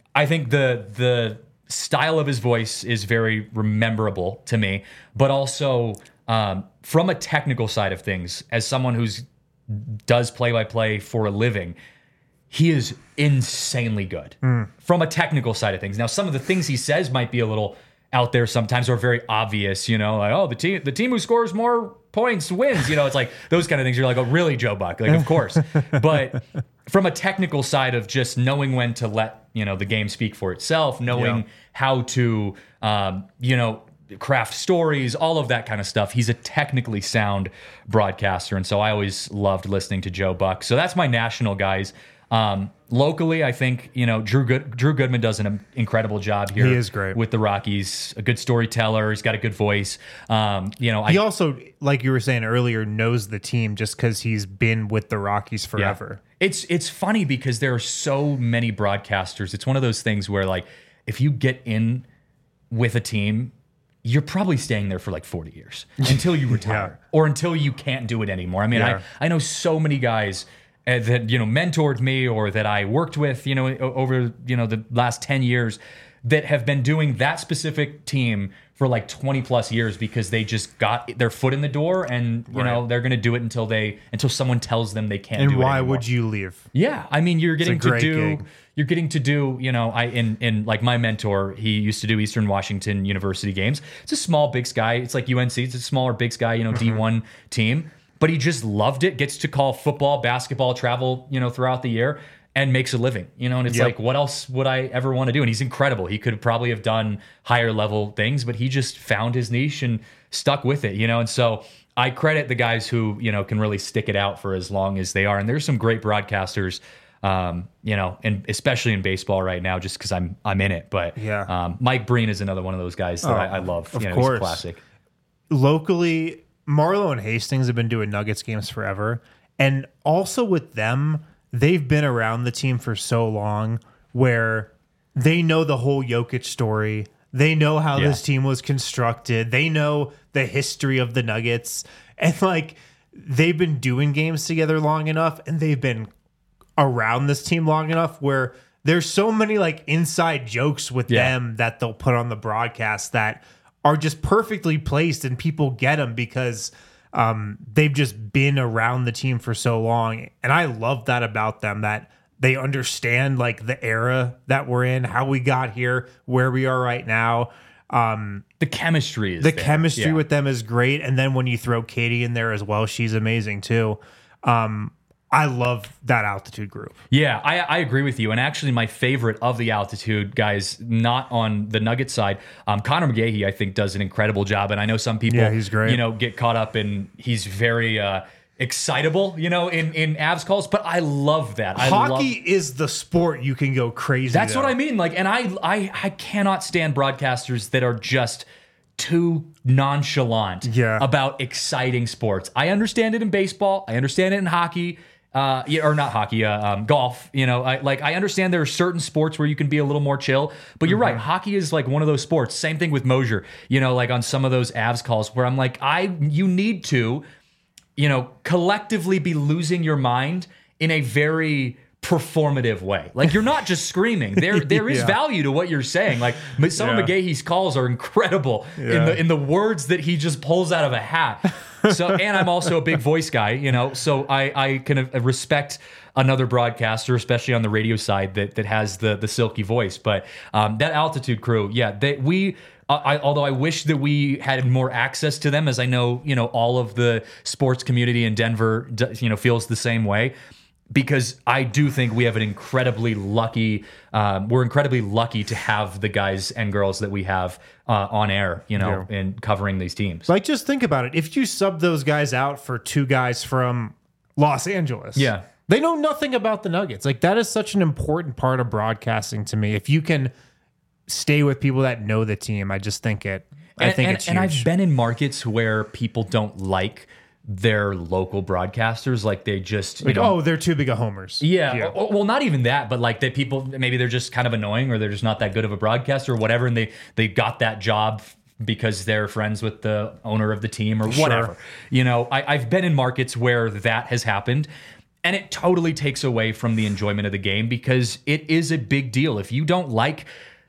[SPEAKER 2] I think the the style of his voice is very rememberable to me, but also um, from a technical side of things, as someone who's does play by play for a living, he is insanely good mm. from a technical side of things. Now, some of the things he says might be a little out there sometimes, or very obvious, you know, like, oh, the team the team who scores more points wins. You know, it's like those kind of things. You're like, oh, really, Joe Buck? Like, of course. But from a technical side of just knowing when to let, you know, the game speak for itself, knowing yeah. how to, um, you know, craft stories, all of that kind of stuff. He's a technically sound broadcaster. And so I always loved listening to Joe Buck. So that's my national guys. Um, locally, I think, you know, Drew Good, Drew Goodman does an incredible job here.
[SPEAKER 1] He is great
[SPEAKER 2] with the Rockies. A good storyteller. He's got a good voice. Um, you know,
[SPEAKER 1] he
[SPEAKER 2] I,
[SPEAKER 1] also, like you were saying earlier, knows the team just because he's been with the Rockies forever.
[SPEAKER 2] Yeah. It's it's funny because there are so many broadcasters. It's one of those things where, like, if you get in with a team, you're probably staying there for like forty years until you retire yeah. or until you can't do it anymore. I mean, yeah. I, I know so many guys that, you know, mentored me or that I worked with, you know, over, you know, the last ten years that have been doing that specific team for like twenty plus years because they just got their foot in the door and, you right. know, they're going to do it until they, until someone tells them they can't
[SPEAKER 1] and
[SPEAKER 2] do it anymore.
[SPEAKER 1] And why would you leave?
[SPEAKER 2] Yeah. I mean, you're getting to do,
[SPEAKER 1] gig.
[SPEAKER 2] you're getting to do, you know, I, in, in like my mentor, he used to do Eastern Washington University games. It's a small Big Sky. It's like U N C. It's a smaller Big Sky, you know, mm-hmm. D one team. But he just loved it, gets to call football, basketball, travel, you know, throughout the year and makes a living, you know, and it's yep. like, what else would I ever want to do? And he's incredible. He could probably have done higher level things, but he just found his niche and stuck with it, you know? And so I credit the guys who, you know, can really stick it out for as long as they are. And there's some great broadcasters, um, you know, and especially in baseball right now, just because I'm, I'm in it. But
[SPEAKER 1] yeah.
[SPEAKER 2] um, Mike Breen is another one of those guys that
[SPEAKER 1] oh,
[SPEAKER 2] I, I love.
[SPEAKER 1] Of
[SPEAKER 2] you know,
[SPEAKER 1] course.
[SPEAKER 2] He's a classic.
[SPEAKER 1] Locally, Marlo and Hastings have been doing Nuggets games forever. And also with them, they've been around the team for so long where they know the whole Jokic story. They know how
[SPEAKER 2] yeah.
[SPEAKER 1] this team was constructed. They know the history of the Nuggets. And like they've been doing games together long enough and they've been around this team long enough where there's so many like inside jokes with
[SPEAKER 2] yeah.
[SPEAKER 1] them that they'll put on the broadcast that are just perfectly placed and people get them because um, they've just been around the team for so long. And I love that about them, that they understand like the era that we're in, how we got here, where we are right now. Um,
[SPEAKER 2] the chemistry is
[SPEAKER 1] the
[SPEAKER 2] there.
[SPEAKER 1] chemistry
[SPEAKER 2] yeah.
[SPEAKER 1] with them is great. And then when you throw Katie in there as well, she's amazing too. Um, I love that altitude group.
[SPEAKER 2] Yeah, I, I agree with you. And actually, my favorite of the altitude guys, not on the Nugget side, um, Connor McGahey, I think, does an incredible job. And I know some people,
[SPEAKER 1] yeah, he's great.
[SPEAKER 2] you know, get caught up in he's very uh, excitable, you know, in in Avs calls. But I love that. I
[SPEAKER 1] Hockey
[SPEAKER 2] love,
[SPEAKER 1] is the sport you can go crazy.
[SPEAKER 2] That's
[SPEAKER 1] though.
[SPEAKER 2] what I mean. Like, and I I I cannot stand broadcasters that are just too nonchalant
[SPEAKER 1] yeah.
[SPEAKER 2] about exciting sports. I understand it in baseball. I understand it in hockey. Uh, yeah, or not hockey, uh, um, golf. You know, I like I understand there are certain sports where you can be a little more chill, but you're mm-hmm. right. Hockey is like one of those sports. Same thing with Mosier. You know, like on some of those Avs calls where I'm like, I you need to, you know, collectively be losing your mind in a very performative way. Like you're not just screaming. There there is
[SPEAKER 1] yeah.
[SPEAKER 2] value to what you're saying. Like some
[SPEAKER 1] yeah.
[SPEAKER 2] of McGahee's calls are incredible
[SPEAKER 1] yeah.
[SPEAKER 2] in the in the words that he just pulls out of a hat. So, and I'm also a big voice guy, you know, so I, I can respect another broadcaster, especially on the radio side, that that has the the silky voice. But um, that altitude crew, yeah, they, we. I, although I wish that we had more access to them, as I know, you know, all of the sports community in Denver, you know, feels the same way. Because I do think we have an incredibly lucky, um, we're incredibly lucky to have the guys and girls that we have uh, on air, you know, yeah. and covering these teams.
[SPEAKER 1] Like, just think about it. If you sub those guys out for two guys from Los Angeles,
[SPEAKER 2] yeah,
[SPEAKER 1] they know nothing about the Nuggets. Like, that is such an important part of broadcasting to me. If you can stay with people that know the team, I just think it. I
[SPEAKER 2] and,
[SPEAKER 1] think
[SPEAKER 2] and,
[SPEAKER 1] it's
[SPEAKER 2] and
[SPEAKER 1] huge.
[SPEAKER 2] I've been in markets where people don't like their local broadcasters, like they just you
[SPEAKER 1] like,
[SPEAKER 2] know,
[SPEAKER 1] oh, they're too big of homers.
[SPEAKER 2] Yeah,
[SPEAKER 1] yeah.
[SPEAKER 2] Or, well, not even that, but like they people maybe they're just kind of annoying, or they're just not that good of a broadcaster, or whatever, and they they got that job because they're friends with the owner of the team or whatever.
[SPEAKER 1] Sure.
[SPEAKER 2] You know, I, I've been in markets where that has happened, And it totally takes away from the enjoyment of the game because it is a big deal. If you don't like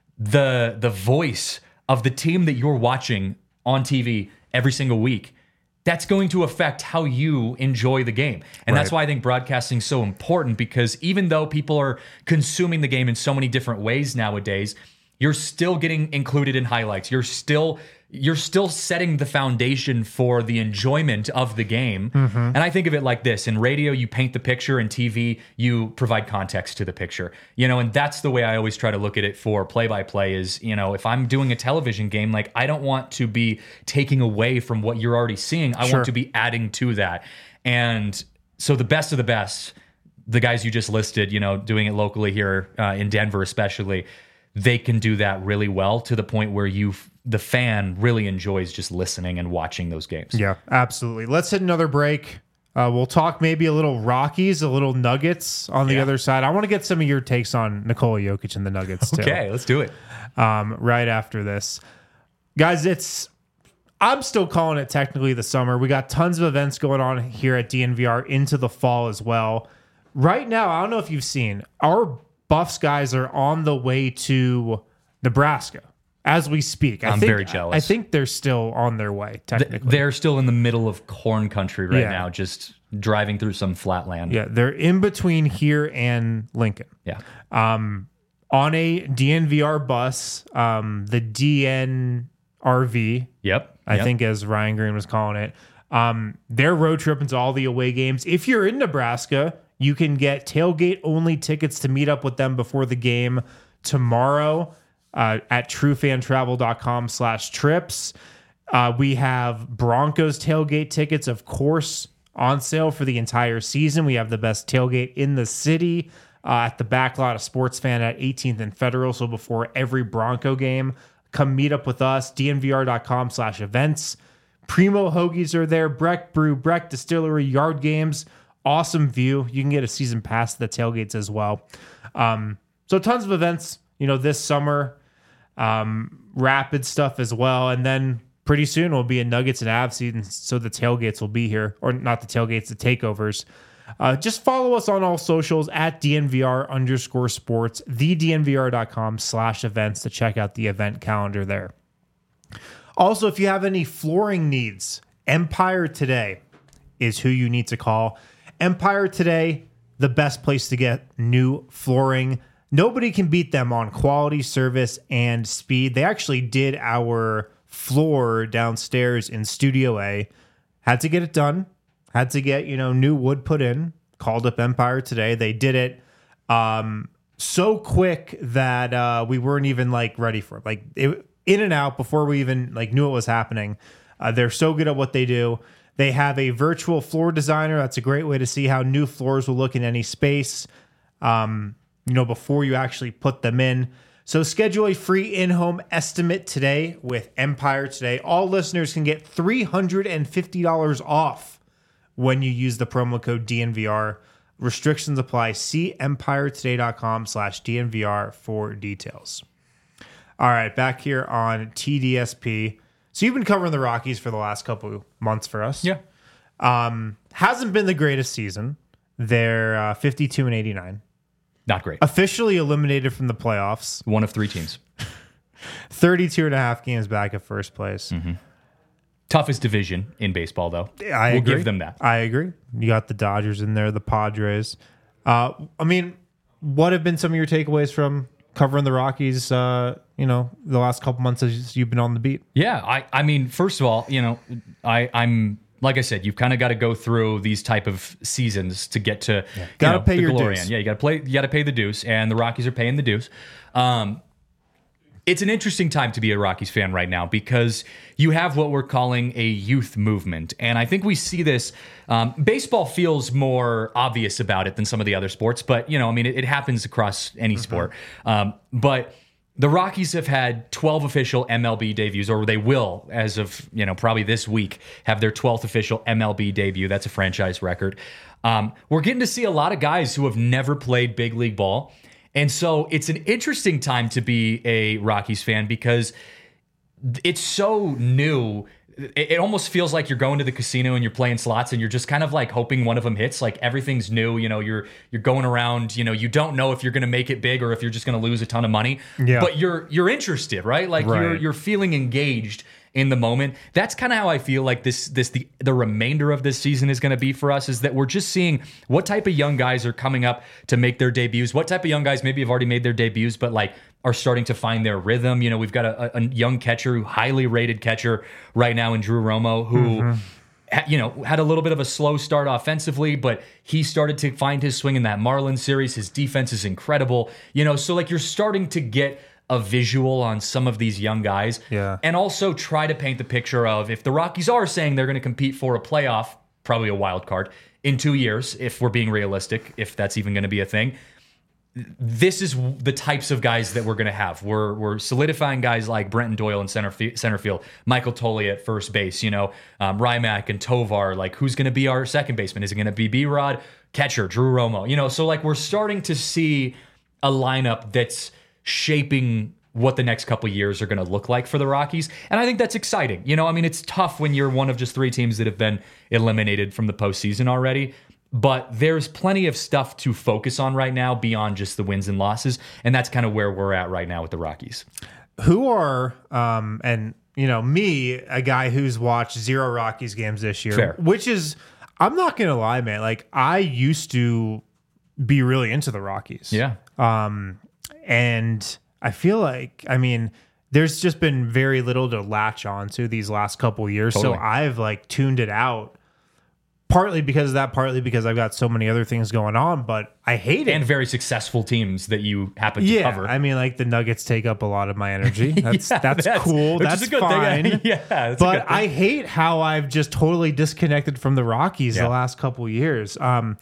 [SPEAKER 2] the the voice of the team that you're watching on T V every single week, that's going to affect how you enjoy the game. And
[SPEAKER 1] Right.
[SPEAKER 2] that's why I think broadcasting is so important, because even though people are consuming the game in so many different ways nowadays, you're still getting included in highlights. You're still you're still setting the foundation for the enjoyment of the game.
[SPEAKER 1] Mm-hmm.
[SPEAKER 2] And I think of it like this. In radio, you paint the picture. In T V, you provide context to the picture. You know, and that's the way I always try to look at it for play-by-play is, you know, if I'm doing a television game, like I don't want to be taking away from what you're already seeing. I
[SPEAKER 1] Sure.
[SPEAKER 2] want to be adding to that. And so the best of the best, the guys you just listed, you know, doing it locally here uh, in Denver especially, they can do that really well to the point where you, the fan, really enjoys just listening and watching those games.
[SPEAKER 1] Yeah, absolutely. Let's hit another break. Uh, we'll talk maybe a little Rockies, a little Nuggets on the
[SPEAKER 2] Yeah.
[SPEAKER 1] other side. I want to get some of your takes on Nikola Jokic and the Nuggets too.
[SPEAKER 2] Okay, let's do it.
[SPEAKER 1] Um, right after this, guys, it's I'm still calling it technically the summer. We got tons of events going on here at D N V R into the fall as well. Right now, I don't know if you've seen, our Buffs guys are on the way to Nebraska as we speak. I
[SPEAKER 2] I'm
[SPEAKER 1] think,
[SPEAKER 2] very jealous.
[SPEAKER 1] I think they're still on their way, technically.
[SPEAKER 2] They're still in the middle of corn country right
[SPEAKER 1] Yeah.
[SPEAKER 2] now, just driving through some flat land.
[SPEAKER 1] Yeah, they're in between here and Lincoln.
[SPEAKER 2] Yeah.
[SPEAKER 1] On a D N V R bus, um, the D N R V,
[SPEAKER 2] Yep.
[SPEAKER 1] I
[SPEAKER 2] yep.
[SPEAKER 1] think as Ryan Green was calling it. Um, their road trip into all the away games. If you're in Nebraska, you can get tailgate only tickets to meet up with them before the game tomorrow uh, at truefantravel.com slash trips. Uh, we have Broncos tailgate tickets, of course, on sale for the entire season. We have the best tailgate in the city uh, at the back lot of Sports Fan at eighteenth and Federal. So before every Bronco game, come meet up with us, dnvr.com slash events. Primo Hoagies are there, Breck Brew, Breck Distillery, Yard Games. Awesome view. You can get a season pass to the tailgates as well. Um, so tons of events, you know, this summer. Um, rapid stuff as well. And then pretty soon will be a Nuggets and Avs season, so the tailgates will be here. Or not the tailgates, the takeovers. Uh, just follow us on all socials at DNVR underscore sports, thednvr.com slash events to check out the event calendar there. Also, if you have any flooring needs, Empire Today is who you need to call. Empire Today, the best place to get new flooring. Nobody can beat them on quality, service, and speed. They actually did our floor downstairs in Studio A. Had to get it done. Had to get, you know, new wood put in. Called up Empire Today. They did it um, so quick that uh, we weren't even like ready for it. Like it, in and out before we even like knew it was happening. Uh, they're so good at what they do. They have a virtual floor designer. That's a great way to see how new floors will look in any space, um, you know, before you actually put them in. So schedule a free in-home estimate today with Empire Today. All listeners can get three hundred fifty dollars off when you use the promo code D N V R. Restrictions apply. See empiretoday.com slash DNVR for details. All right, back here on T D S P. So you've been covering the Rockies for the last couple of months for us.
[SPEAKER 2] Yeah.
[SPEAKER 1] Um, hasn't been the greatest season. They're uh, fifty-two and eighty-nine.
[SPEAKER 2] Not great.
[SPEAKER 1] Officially eliminated from the playoffs.
[SPEAKER 2] One of three teams.
[SPEAKER 1] thirty-two and a half games back at first place.
[SPEAKER 2] Mm-hmm. Toughest division in baseball, though.
[SPEAKER 1] I
[SPEAKER 2] we'll
[SPEAKER 1] agree.
[SPEAKER 2] give them that.
[SPEAKER 1] I agree. You got the Dodgers in there, the Padres. Uh, I mean, what have been some of your takeaways from covering the Rockies, uh, you know, the last couple months as you've been on the beat?
[SPEAKER 2] Yeah, I, I mean, first of all, you know, I, I'm like I said, you've kind of got to go through these type of seasons to get to yeah.
[SPEAKER 1] Got to
[SPEAKER 2] know,
[SPEAKER 1] pay
[SPEAKER 2] the
[SPEAKER 1] your
[SPEAKER 2] glory
[SPEAKER 1] dues.
[SPEAKER 2] end. Yeah, you got to play. You got to pay the dues, and the Rockies are paying the dues. Um, it's an interesting time to be a Rockies fan right now because you have what we're calling a youth movement. And I think we see this. Um, baseball feels more obvious about it than some of the other sports. But, you know, I mean, it, it happens across any mm-hmm. sport. Um, but the Rockies have had twelve official M L B debuts, or they will, as of, you know, probably this week, have their twelfth official M L B debut. That's a franchise record. Um, we're getting to see a lot of guys who have never played big league ball. And so it's an interesting time to be a Rockies fan because it's so new it, it almost feels like you're going to the casino and you're playing slots and you're just kind of like hoping one of them hits. Like everything's new, you know, you're you're going around, you know, you don't know if you're going to make it big or if you're just going to lose a ton of money.
[SPEAKER 1] Yeah.
[SPEAKER 2] But you're you're interested, right? Like
[SPEAKER 1] Right.
[SPEAKER 2] you're you're feeling engaged in the moment. That's kind of how I feel like this this the the remainder of this season is going to be for us, is that we're just seeing what type of young guys are coming up to make their debuts, what type of young guys maybe have already made their debuts but like are starting to find their rhythm. You know, we've got a, a young catcher, highly rated catcher right now in Drew Romo, who mm-hmm. ha, you know, had a little bit of a slow start offensively, but he started to find his swing in that Marlins series. His defense is incredible. You know, so like you're starting to get a visual on some of these young guys.
[SPEAKER 1] Yeah.
[SPEAKER 2] And also try to paint the picture of, if the Rockies are saying they're going to compete for a playoff, probably a wild card, in two years, if we're being realistic, if that's even going to be a thing, this is the types of guys that we're going to have. We're we're solidifying guys like Brenton Doyle in center, fi- center field, Michael Tolley at first base, you know, um, Rymack and Tovar. Like, who's going to be our second baseman? Is it going to be B-Rod? Catcher, Drew Romo. You know, so like we're starting to see a lineup that's shaping what the next couple years are going to look like for the Rockies. And I think that's exciting. You know, I mean, it's tough when you're one of just three teams that have been eliminated from the postseason already. But there's plenty of stuff to focus on right now beyond just the wins and losses. And that's kind of where we're at right now with the Rockies.
[SPEAKER 1] Who are, um, and, you know, me, a guy who's watched zero Rockies games this year,
[SPEAKER 2] Fair.
[SPEAKER 1] which is, I'm not going to lie, man. Like, I used to be really into the Rockies.
[SPEAKER 2] Yeah.
[SPEAKER 1] Um, and I feel like, I mean, there's just been very little to latch on to these last couple years.
[SPEAKER 2] Totally.
[SPEAKER 1] So I've like tuned it out. Partly because of that, partly because I've got so many other things going on, but I hate it.
[SPEAKER 2] And very successful teams that you happen to
[SPEAKER 1] yeah,
[SPEAKER 2] cover.
[SPEAKER 1] I mean, like the Nuggets take up a lot of my energy. That's
[SPEAKER 2] Yeah,
[SPEAKER 1] that's,
[SPEAKER 2] that's-
[SPEAKER 1] cool.
[SPEAKER 2] which is
[SPEAKER 1] That's
[SPEAKER 2] a good
[SPEAKER 1] fine.
[SPEAKER 2] thing. Yeah, that's a
[SPEAKER 1] but
[SPEAKER 2] good thing.
[SPEAKER 1] I hate how I've just totally disconnected from the Rockies
[SPEAKER 2] Yeah.
[SPEAKER 1] the last couple years. Um,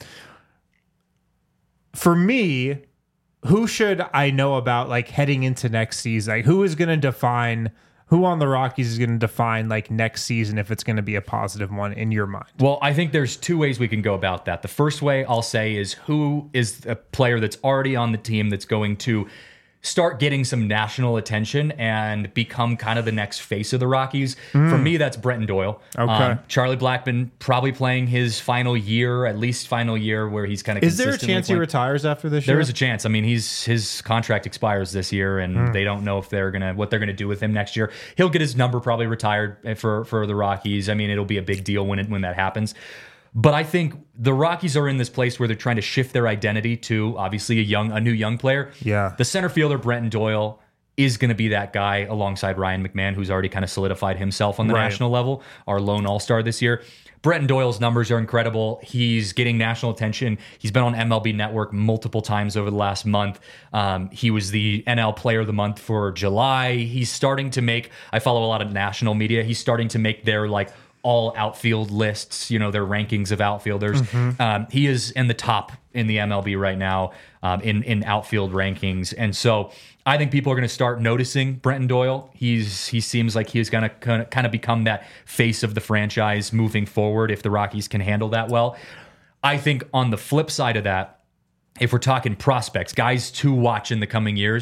[SPEAKER 1] for me, who should I know about like heading into next season? Like, who is going to define? Who on the Rockies is going to define like next season if it's going to be a positive one in your mind?
[SPEAKER 2] Well, I think there's two ways we can go about that. The first way I'll say is, who is a player that's already on the team that's going to start getting some national attention and become kind of the next face of the Rockies. Mm. For me, that's Brenton Doyle.
[SPEAKER 1] Okay.
[SPEAKER 2] Um, Charlie Blackmon probably playing his final year, at least final year, where he's kind of
[SPEAKER 1] Is there a chance he retires after this
[SPEAKER 2] There
[SPEAKER 1] year?
[SPEAKER 2] is a chance. I mean, he's his contract expires this year, and
[SPEAKER 1] Mm.
[SPEAKER 2] they don't know if they're gonna what they're gonna do with him next year. He'll get his number probably retired for for the Rockies. I mean, it'll be a big deal when it when that happens. But I think the Rockies are in this place where they're trying to shift their identity to obviously a young, a new young player.
[SPEAKER 1] Yeah.
[SPEAKER 2] The center fielder, Brenton Doyle, is going to be that guy alongside Ryan McMahon, who's already kind of solidified himself on the
[SPEAKER 1] Right.
[SPEAKER 2] national level, our lone all-star this year. Brenton Doyle's numbers are incredible. He's getting national attention. He's been on M L B Network multiple times over the last month. Um, he was the N L Player of the Month for July. He's starting to make, I follow a lot of national media, he's starting to make their like all outfield lists, you know, their rankings of outfielders. Mm-hmm. Um, he is in the top in the M L B right now um, in, in outfield rankings. And so I think people are going to start noticing Brenton Doyle. He's He seems like he's going to kind of become that face of the franchise moving forward if the Rockies can handle that well. I think on the flip side of that, if we're talking prospects, guys to watch in the coming years,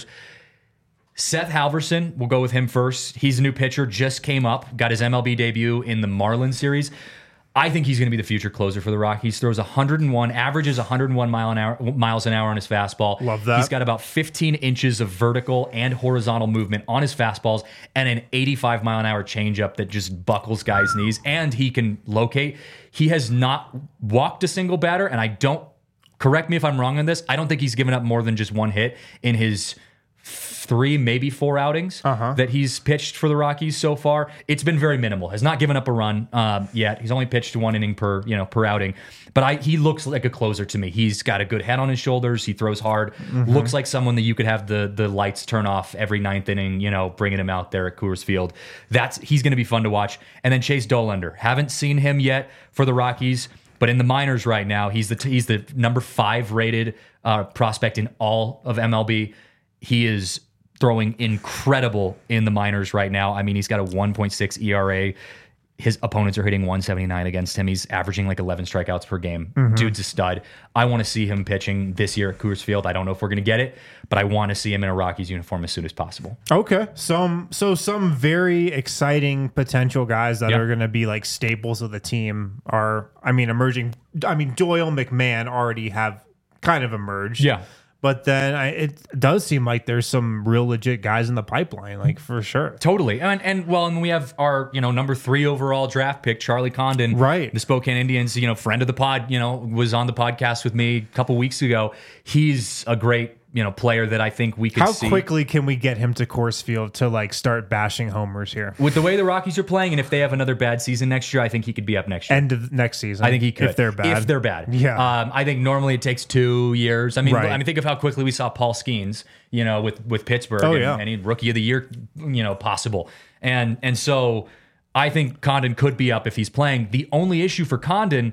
[SPEAKER 2] Seth Halverson, we'll go with him first. He's a new pitcher, just came up, got his M L B debut in the Marlins series. I think he's going to be the future closer for the Rockies. Throws one hundred one, averages one hundred one mile an hour, miles an hour on his fastball.
[SPEAKER 1] Love that.
[SPEAKER 2] He's got about fifteen inches of vertical and horizontal movement on his fastballs and an eighty-five mile an hour changeup that just buckles guys' knees. And he can locate. He has not walked a single batter, and I don't, correct me if I'm wrong on this, I don't think he's given up more than just one hit in his three, maybe four outings
[SPEAKER 1] uh-huh.
[SPEAKER 2] that he's pitched for the Rockies so far. It's been very minimal. Has not given up a run um, yet. He's only pitched one inning per, you know, per outing. But I, he looks like a closer to me. He's got a good head on his shoulders. He throws hard. Mm-hmm. Looks like someone that you could have the the lights turn off every ninth inning, you know, bringing him out there at Coors Field. That's he's going to be fun to watch. And then Chase Dollander. Haven't seen him yet for the Rockies, but in the minors right now, he's the he's the number five rated uh, prospect in all of M L B. He is throwing incredible in the minors right now. I mean, he's got a one point six E R A. His opponents are hitting one seventy-nine against him. He's averaging like eleven strikeouts per game.
[SPEAKER 1] Mm-hmm.
[SPEAKER 2] Dude's a stud. I want to see him pitching this year at Coors Field. I don't know if we're going to get it, but I want to see him in a Rockies uniform as soon as possible.
[SPEAKER 1] Okay. Some so some very exciting potential guys that
[SPEAKER 2] Yeah.
[SPEAKER 1] are going to be like staples of the team are, I mean, emerging. I mean, Doyle, McMahon already have kind of emerged.
[SPEAKER 2] Yeah.
[SPEAKER 1] But then I, it does seem like there's some real legit guys in the pipeline, like for sure.
[SPEAKER 2] Totally. And, and well, and we have our, you know, number three overall draft pick, Charlie Condon.
[SPEAKER 1] Right.
[SPEAKER 2] The Spokane Indians, you know, friend of the pod, you know, was on the podcast with me a couple weeks ago. He's a great, you know, player that I think we could
[SPEAKER 1] How
[SPEAKER 2] see.
[SPEAKER 1] quickly can we get him to Coors Field to like start bashing homers here?
[SPEAKER 2] With the way the Rockies are playing, and if they have another bad season next year, I think he could be up next year.
[SPEAKER 1] End of next season.
[SPEAKER 2] I think he could.
[SPEAKER 1] If they're bad.
[SPEAKER 2] If they're bad.
[SPEAKER 1] Yeah.
[SPEAKER 2] Um, I think normally it takes two years. I mean,
[SPEAKER 1] Right.
[SPEAKER 2] I mean, think of how quickly we saw Paul Skeens, you know, with with Pittsburgh
[SPEAKER 1] Oh,
[SPEAKER 2] and,
[SPEAKER 1] yeah.
[SPEAKER 2] and he rookie of the year, you know, possible. And and so I think Condon could be up if he's playing. The only issue for Condon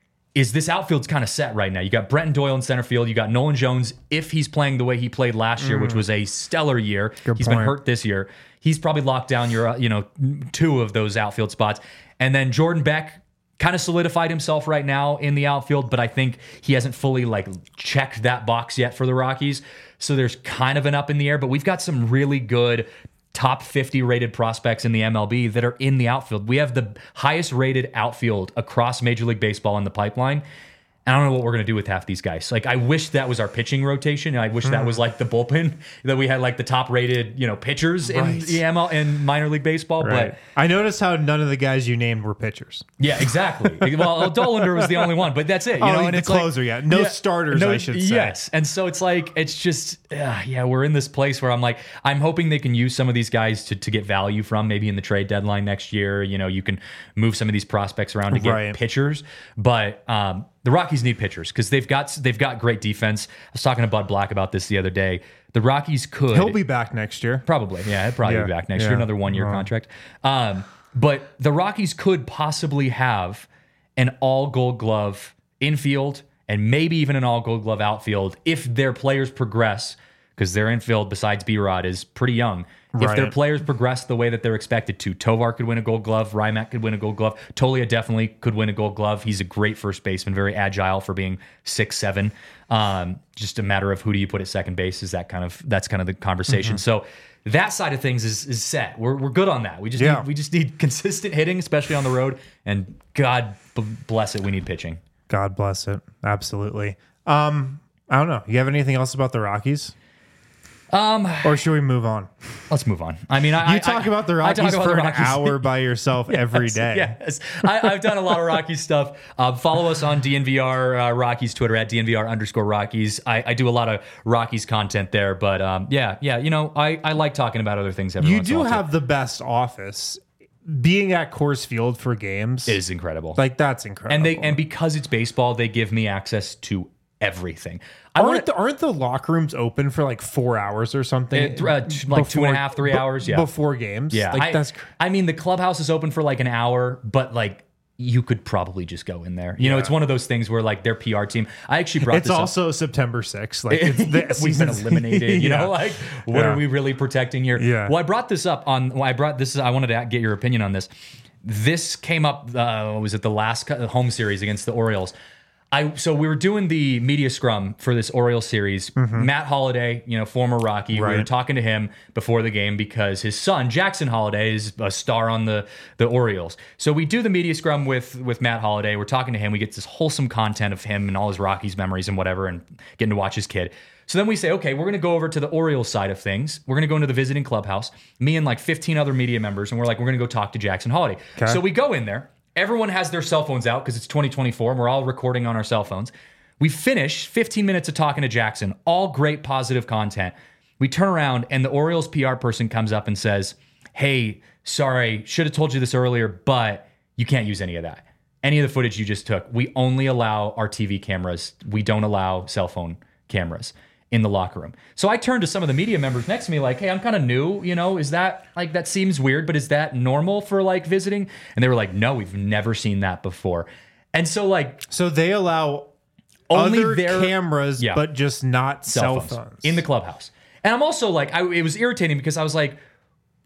[SPEAKER 2] is this outfield's kind of set right now. You got Brenton Doyle in center field. You got Nolan Jones, if he's playing the way he played last year, which was a stellar year.
[SPEAKER 1] Good
[SPEAKER 2] He's been
[SPEAKER 1] point.
[SPEAKER 2] hurt this year. He's probably locked down your, uh, you know, two of those outfield spots. And then Jordan Beck kind of solidified himself right now in the outfield, but I think he hasn't fully like checked that box yet for the Rockies. So there's kind of an up in the air, but we've got some really good top fifty rated prospects in the M L B that are in the outfield. We have the highest rated outfield across Major League Baseball in the pipeline. And I don't know what we're going to do with half these guys. Like, I wish that was our pitching rotation. I wish that was like the bullpen, that we had like the top rated, you know, pitchers in
[SPEAKER 1] Right.
[SPEAKER 2] the M L in minor league baseball.
[SPEAKER 1] Right.
[SPEAKER 2] But
[SPEAKER 1] I noticed how none of the guys you named were pitchers.
[SPEAKER 2] yeah, exactly. Well, Dollander was the only one, but that's it. You
[SPEAKER 1] Oh,
[SPEAKER 2] know, and
[SPEAKER 1] the
[SPEAKER 2] it's like-
[SPEAKER 1] closer, yeah. No starters, I should say.
[SPEAKER 2] Yes, and so it's like it's just uh, yeah, we're in this place where I'm like, I'm hoping they can use some of these guys to to get value from maybe in the trade deadline next year. You know, you can move some of these prospects around to get
[SPEAKER 1] Right.
[SPEAKER 2] pitchers, but um, the Rockies need pitchers because they've got they've got great defense. I was talking to Bud Black about this the other day. The Rockies could
[SPEAKER 1] He'll be back next year.
[SPEAKER 2] Probably, yeah, he'll probably
[SPEAKER 1] Yeah,
[SPEAKER 2] be back next
[SPEAKER 1] yeah.
[SPEAKER 2] year, another one-year
[SPEAKER 1] Wow.
[SPEAKER 2] contract. Um, but the Rockies could possibly have an all-Gold Glove infield and maybe even an all-Gold Glove outfield if their players progress, because their infield, besides B-Rod, is pretty young. If their
[SPEAKER 1] Right.
[SPEAKER 2] players progress the way that they're expected to, Tovar could win a Gold Glove, Rymack could win a Gold Glove, Tolia definitely could win a Gold Glove. He's a great first baseman, very agile for being six seven. Um, just a matter of who do you put at second base is that kind of that's kind of the conversation. So that side of things is is set. We're we're good on that. We just
[SPEAKER 1] Yeah.
[SPEAKER 2] need, we just need consistent hitting, especially on the road. And God b- bless it, we need pitching.
[SPEAKER 1] God bless it. Absolutely. Um, I don't know. You have anything else about the Rockies? Um, or should we move on?
[SPEAKER 2] Let's move on. I mean, I
[SPEAKER 1] You
[SPEAKER 2] I-
[SPEAKER 1] talk
[SPEAKER 2] I-
[SPEAKER 1] about the
[SPEAKER 2] I talk
[SPEAKER 1] Rockies
[SPEAKER 2] about
[SPEAKER 1] for
[SPEAKER 2] the
[SPEAKER 1] an
[SPEAKER 2] Rockies.
[SPEAKER 1] hour by yourself every day.
[SPEAKER 2] Yes, I, I've done a lot of Rockies stuff. Uh, follow us on D N V R uh, Rockies Twitter at D N V R underscore Rockies. I, I do a lot of Rockies content there, but um, yeah, yeah, you know, I, I like talking about other things. Every
[SPEAKER 1] You
[SPEAKER 2] once in a
[SPEAKER 1] do
[SPEAKER 2] while, too.
[SPEAKER 1] have the best office. Being at Coors Field for games,
[SPEAKER 2] It is incredible.
[SPEAKER 1] like that's incredible.
[SPEAKER 2] and they and because it's baseball, they give me access to everything. I
[SPEAKER 1] aren't
[SPEAKER 2] want
[SPEAKER 1] the, aren't the locker rooms open for like four hours or something?
[SPEAKER 2] Uh, t- like two and a half, three
[SPEAKER 1] be-
[SPEAKER 2] hours, yeah.
[SPEAKER 1] before games.
[SPEAKER 2] Yeah,
[SPEAKER 1] like
[SPEAKER 2] I,
[SPEAKER 1] that's cr-
[SPEAKER 2] I mean, the clubhouse is open for like an hour, but like you could probably just go in there. You know,
[SPEAKER 1] Yeah.
[SPEAKER 2] it's one of those things where like their P R team. I actually brought
[SPEAKER 1] It's
[SPEAKER 2] this
[SPEAKER 1] also September sixth. Like it's the
[SPEAKER 2] up. We've been
[SPEAKER 1] season's-
[SPEAKER 2] eliminated. You
[SPEAKER 1] Yeah.
[SPEAKER 2] know, like what
[SPEAKER 1] Yeah.
[SPEAKER 2] are we really protecting here?
[SPEAKER 1] Yeah.
[SPEAKER 2] Well, I brought this up on. Well, I brought this. I wanted to get your opinion on this. This came up. Uh, was it the last co- home series against the Orioles? I so we were doing the media scrum for this Orioles series. Matt Holliday, you know, former Rocky, we were
[SPEAKER 1] Right.
[SPEAKER 2] talking to him before the game because his son Jackson Holliday is a star on the the Orioles. So we do the media scrum with with Matt Holliday. We're talking to him. We get this wholesome content of him and all his Rockies memories and whatever, and getting to watch his kid. So then we say, okay, we're going to go over to the Orioles side of things. We're going to go into the visiting clubhouse, me and like fifteen other media members, and we're like, we're going to go talk to Jackson Holliday.
[SPEAKER 1] Okay.
[SPEAKER 2] So we go in there. Everyone has their cell phones out because it's twenty twenty-four and we're all recording on our cell phones. We finish fifteen minutes of talking to Jackson, all great positive content. We turn around and the Orioles P R person comes up and says, hey, sorry, should have told you this earlier, but you can't use any of that. Any of the footage you just took. We only allow our T V cameras. We don't allow cell phone cameras in the locker room. So I turned to some of the media members next to me like, hey, I'm kind of new, you know, is that like, that seems weird, but is that normal for like visiting? And they were like, no, we've never seen that before. And so like
[SPEAKER 1] So they allow
[SPEAKER 2] only
[SPEAKER 1] other
[SPEAKER 2] their
[SPEAKER 1] cameras,
[SPEAKER 2] Yeah.
[SPEAKER 1] but just not cell,
[SPEAKER 2] cell
[SPEAKER 1] phones.
[SPEAKER 2] phones in the clubhouse. And I'm also like, I, it was irritating because I was like,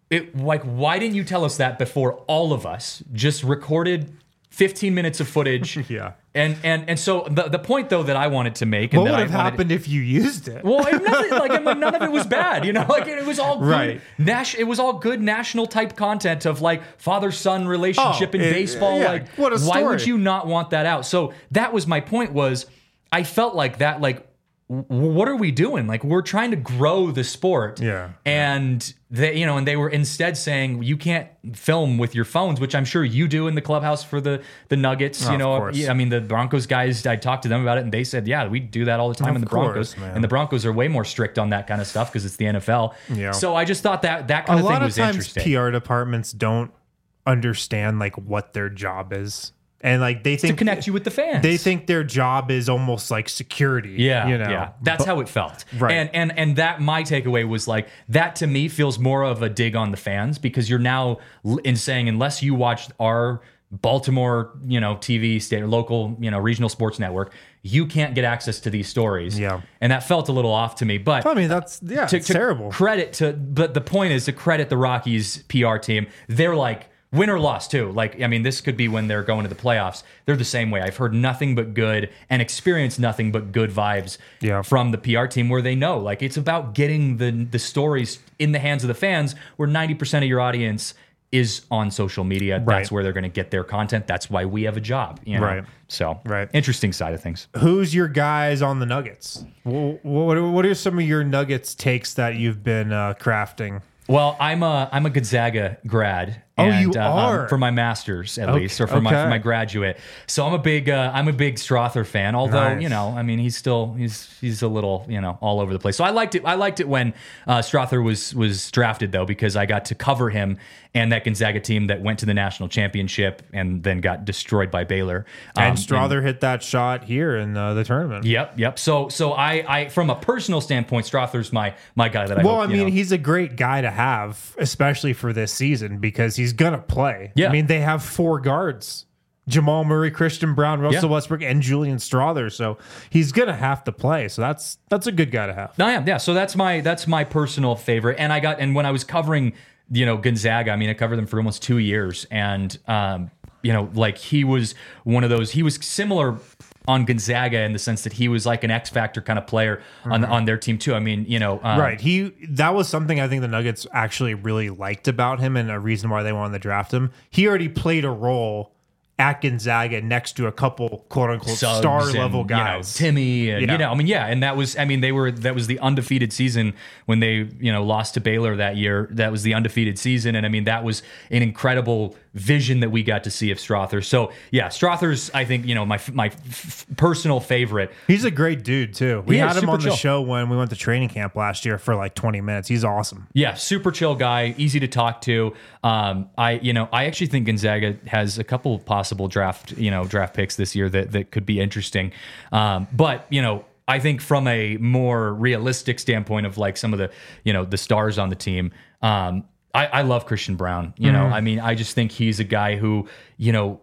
[SPEAKER 2] it like why didn't you tell us that before all of us just recorded fifteen minutes of footage?
[SPEAKER 1] Yeah.
[SPEAKER 2] And and and so the the point though that I wanted to make and
[SPEAKER 1] What
[SPEAKER 2] that
[SPEAKER 1] would
[SPEAKER 2] I
[SPEAKER 1] have
[SPEAKER 2] wanted,
[SPEAKER 1] happened if you used it?
[SPEAKER 2] well, it- nothing, like I mean, none of it was bad, you know. Like it, was all good.
[SPEAKER 1] Right.
[SPEAKER 2] Nas- it was all good national type content of like father son relationship
[SPEAKER 1] Oh,
[SPEAKER 2] in
[SPEAKER 1] it-
[SPEAKER 2] baseball.
[SPEAKER 1] yeah,
[SPEAKER 2] like,
[SPEAKER 1] what a
[SPEAKER 2] why would
[SPEAKER 1] story.
[SPEAKER 2] you not want that out? So that was my point. Was I felt like that. Like, w- what are we doing? Like, we're trying to grow the sport.
[SPEAKER 1] Yeah.
[SPEAKER 2] And they, you know, and they were instead saying you can't film with your phones, which I'm sure you do in the clubhouse for the the Nuggets.
[SPEAKER 1] Oh,
[SPEAKER 2] you
[SPEAKER 1] of
[SPEAKER 2] know,
[SPEAKER 1] course.
[SPEAKER 2] yeah, I mean the Broncos guys. I talked to them about it, and they said, yeah, we do that all the time
[SPEAKER 1] Of
[SPEAKER 2] in the
[SPEAKER 1] course,
[SPEAKER 2] Broncos.
[SPEAKER 1] man.
[SPEAKER 2] And the Broncos are way more strict on that kind of stuff because it's the N F L.
[SPEAKER 1] Yeah.
[SPEAKER 2] So I just thought that that
[SPEAKER 1] A
[SPEAKER 2] kind of
[SPEAKER 1] lot
[SPEAKER 2] thing
[SPEAKER 1] of
[SPEAKER 2] was
[SPEAKER 1] times
[SPEAKER 2] interesting.
[SPEAKER 1] P R departments don't understand like what their job is. And like they
[SPEAKER 2] to
[SPEAKER 1] think
[SPEAKER 2] connect you with the fans.
[SPEAKER 1] they think their job is almost like security.
[SPEAKER 2] Yeah,
[SPEAKER 1] You know.
[SPEAKER 2] yeah. That's how it felt.
[SPEAKER 1] Right.
[SPEAKER 2] And and and that my takeaway was like that to me feels more of a dig on the fans because you're now l- in saying unless you watched our Baltimore, you know, T V state or local, you know, regional sports network, you can't get access to these stories.
[SPEAKER 1] Yeah.
[SPEAKER 2] And that felt a little off to me. But
[SPEAKER 1] I mean that's yeah,
[SPEAKER 2] to,
[SPEAKER 1] it's
[SPEAKER 2] to
[SPEAKER 1] terrible.
[SPEAKER 2] credit to but the point is to credit the Rockies P R team. They're like win or loss too. Like I mean, this could be when they're going to the playoffs. They're the same way. I've heard nothing but good and experienced nothing but good vibes
[SPEAKER 1] Yeah.
[SPEAKER 2] from the P R team where they know like it's about getting the the stories in the hands of the fans where ninety percent of your audience is on social media.
[SPEAKER 1] Right.
[SPEAKER 2] That's where they're going to get their content. That's why we have a job. You know?
[SPEAKER 1] Right.
[SPEAKER 2] So
[SPEAKER 1] Right.
[SPEAKER 2] interesting side of things.
[SPEAKER 1] Who's your guys on the Nuggets? What what, what are some of your Nuggets takes that you've been uh, crafting?
[SPEAKER 2] Well, I'm a I'm a Gonzaga grad.
[SPEAKER 1] Oh,
[SPEAKER 2] and,
[SPEAKER 1] you
[SPEAKER 2] uh, um,
[SPEAKER 1] are?
[SPEAKER 2] for my master's at
[SPEAKER 1] Okay,
[SPEAKER 2] least, or for my
[SPEAKER 1] okay.
[SPEAKER 2] for my graduate. So I'm a big uh, I'm a big Strother fan. Although
[SPEAKER 1] Nice.
[SPEAKER 2] you know, I mean, he's still he's he's a little you know all over the place. So I liked it. I liked it when uh, Strother was was drafted though because I got to cover him and that Gonzaga team that went to the national championship and then got destroyed by Baylor. Um,
[SPEAKER 1] And Strother hit that shot here in uh, the tournament.
[SPEAKER 2] Yep, yep. So so I I from a personal standpoint, Strother's my my guy that I
[SPEAKER 1] Well,
[SPEAKER 2] hope,
[SPEAKER 1] I
[SPEAKER 2] you
[SPEAKER 1] mean,
[SPEAKER 2] know,
[SPEAKER 1] he's a great guy to have, especially for this season, because he's gonna play.
[SPEAKER 2] Yeah.
[SPEAKER 1] I mean, they have four guards: Jamal Murray, Christian Brown, Russell
[SPEAKER 2] Yeah.
[SPEAKER 1] Westbrook, and Julian Strother. So he's gonna have to play. So that's that's a good guy to have.
[SPEAKER 2] No, yeah, yeah. So that's my that's my personal favorite. And I got and when I was covering, you know, Gonzaga, I mean, I covered them for almost two years, and um, you know, like he was one of those. He was similar on Gonzaga in the sense that he was like an X factor kind of player on on their team too. I mean, you know, um,
[SPEAKER 1] Right. He that was something I think the Nuggets actually really liked about him, and a reason why they wanted to draft him. He already played a role at Gonzaga next to a couple quote unquote
[SPEAKER 2] Suggs
[SPEAKER 1] star
[SPEAKER 2] and,
[SPEAKER 1] level
[SPEAKER 2] you know,
[SPEAKER 1] guys.
[SPEAKER 2] Timmy, and
[SPEAKER 1] Yeah.
[SPEAKER 2] you know, I mean, yeah, and that was, I mean, they were that was the undefeated season when they, you know, lost to Baylor that year. That was the undefeated season, and I mean, that was an incredible vision that we got to see of Strother. So yeah, Strother's, I think, you know, my my f- personal favorite.
[SPEAKER 1] He's a great dude too. We
[SPEAKER 2] He is
[SPEAKER 1] had him
[SPEAKER 2] super
[SPEAKER 1] on the
[SPEAKER 2] chill.
[SPEAKER 1] show when we went to training camp last year for like twenty minutes. He's awesome.
[SPEAKER 2] Yeah, super chill guy, easy to talk to. Um, I, you know, I actually think Gonzaga has a couple possible draft, you know, draft picks this year that that could be interesting. Um, but you know, I think from a more realistic standpoint of like some of the, you know, the stars on the team. Um, I, I love Christian Brown. You know, I mean, I just think he's a guy who, you know.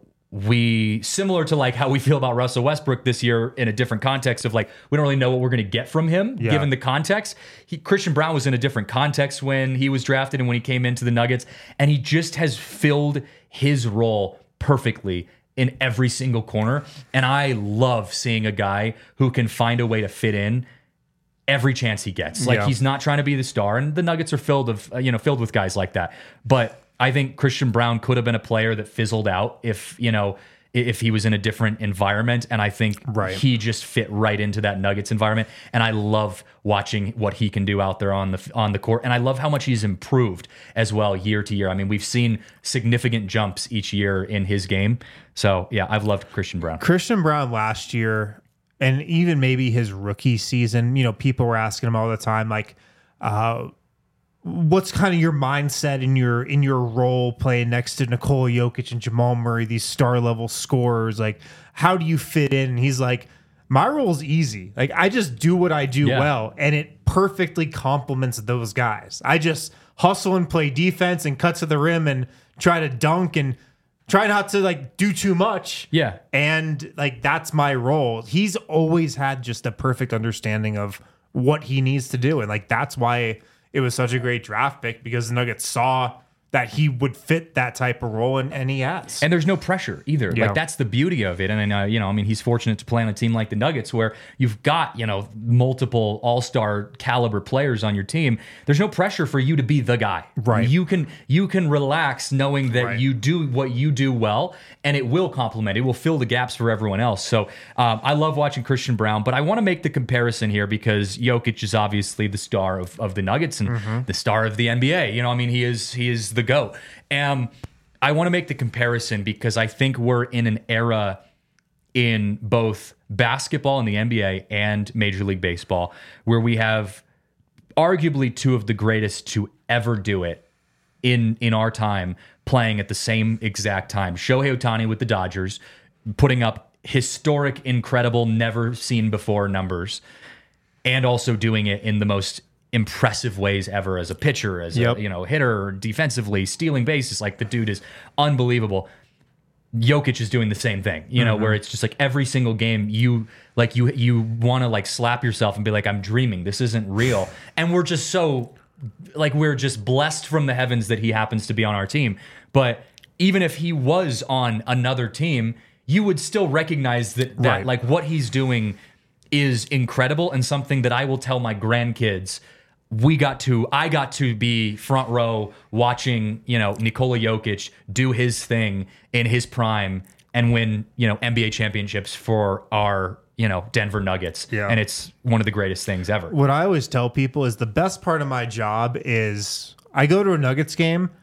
[SPEAKER 2] We similar to like how we feel about Russell Westbrook this year in a different context of like we don't really know what we're going to get from him
[SPEAKER 1] Yeah.
[SPEAKER 2] given the context. He, Christian Brown was in a different context when he was drafted and when he came into the Nuggets, and he just has filled his role perfectly in every single corner. And I love seeing a guy who can find a way to fit in every chance he gets. Like
[SPEAKER 1] Yeah.
[SPEAKER 2] he's not trying to be the star, and the Nuggets are filled of uh, you know filled with guys like that. But I think Christian Brown could have been a player that fizzled out if you know if he was in a different environment, and I think
[SPEAKER 1] Right.
[SPEAKER 2] he just fit right into that Nuggets environment. And I love watching what he can do out there on the on the court, and I love how much he's improved as well year to year. I mean, we've seen significant jumps each year in his game. So yeah, I've loved Christian Brown.
[SPEAKER 1] Christian Brown last year, and even maybe his rookie season, you know, people were asking him all the time, like, uh, what's kind of your mindset in your in your role playing next to Nikola Jokic and Jamal Murray, these star level scorers? Like, how do you fit in? And he's like, my role's easy. Like, I just do what I do
[SPEAKER 2] Yeah.
[SPEAKER 1] well, and it perfectly complements those guys. I just hustle and play defense and cut to the rim and try to dunk and try not to like do too much.
[SPEAKER 2] Yeah.
[SPEAKER 1] And like that's my role. He's always had just a perfect understanding of what he needs to do. And like that's why it was such a great draft pick because the Nuggets saw that he would fit that type of role, and, and he has.
[SPEAKER 2] And there's no pressure either.
[SPEAKER 1] Yeah.
[SPEAKER 2] Like, that's the beauty of it. And, uh, you know, I mean, he's fortunate to play on a team like the Nuggets where you've got, you know, multiple all-star caliber players on your team. There's no pressure for you to be the guy.
[SPEAKER 1] Right.
[SPEAKER 2] You can you can relax knowing that
[SPEAKER 1] Right.
[SPEAKER 2] you do what you do well, and it will complement. It will fill the gaps for everyone else. So um, I love watching Christian Braun, but I want to make the comparison here because Jokic is obviously the star of, of the Nuggets and
[SPEAKER 1] Mm-hmm.
[SPEAKER 2] the star of the N B A. You know, I mean, he is he is the GOAT. Um, I want to make the comparison because I think we're in an era in both basketball in the N B A and Major League Baseball where we have arguably two of the greatest to ever do it in in our time playing at the same exact time. Shohei Ohtani with the Dodgers putting up historic, incredible, never seen before numbers, and also doing it in the most impressive ways ever as a pitcher, as
[SPEAKER 1] Yep.
[SPEAKER 2] a you know hitter, defensively, stealing bases. Like, the dude is unbelievable. Jokic is doing the same thing, you know, where it's just like every single game you like you you want to like slap yourself and be like, I'm dreaming. This isn't real. And we're just so like we're just blessed from the heavens that he happens to be on our team. But even if he was on another team, you would still recognize that that
[SPEAKER 1] Right.
[SPEAKER 2] like what he's doing is incredible and something that I will tell my grandkids. We got to, I got to be front row watching, you know, Nikola Jokic do his thing in his prime and win, you know, N B A championships for our, you know, Denver Nuggets.
[SPEAKER 1] Yeah.
[SPEAKER 2] And it's one of the greatest things ever.
[SPEAKER 1] What I always tell people is the best part of my job is I go to a Nuggets game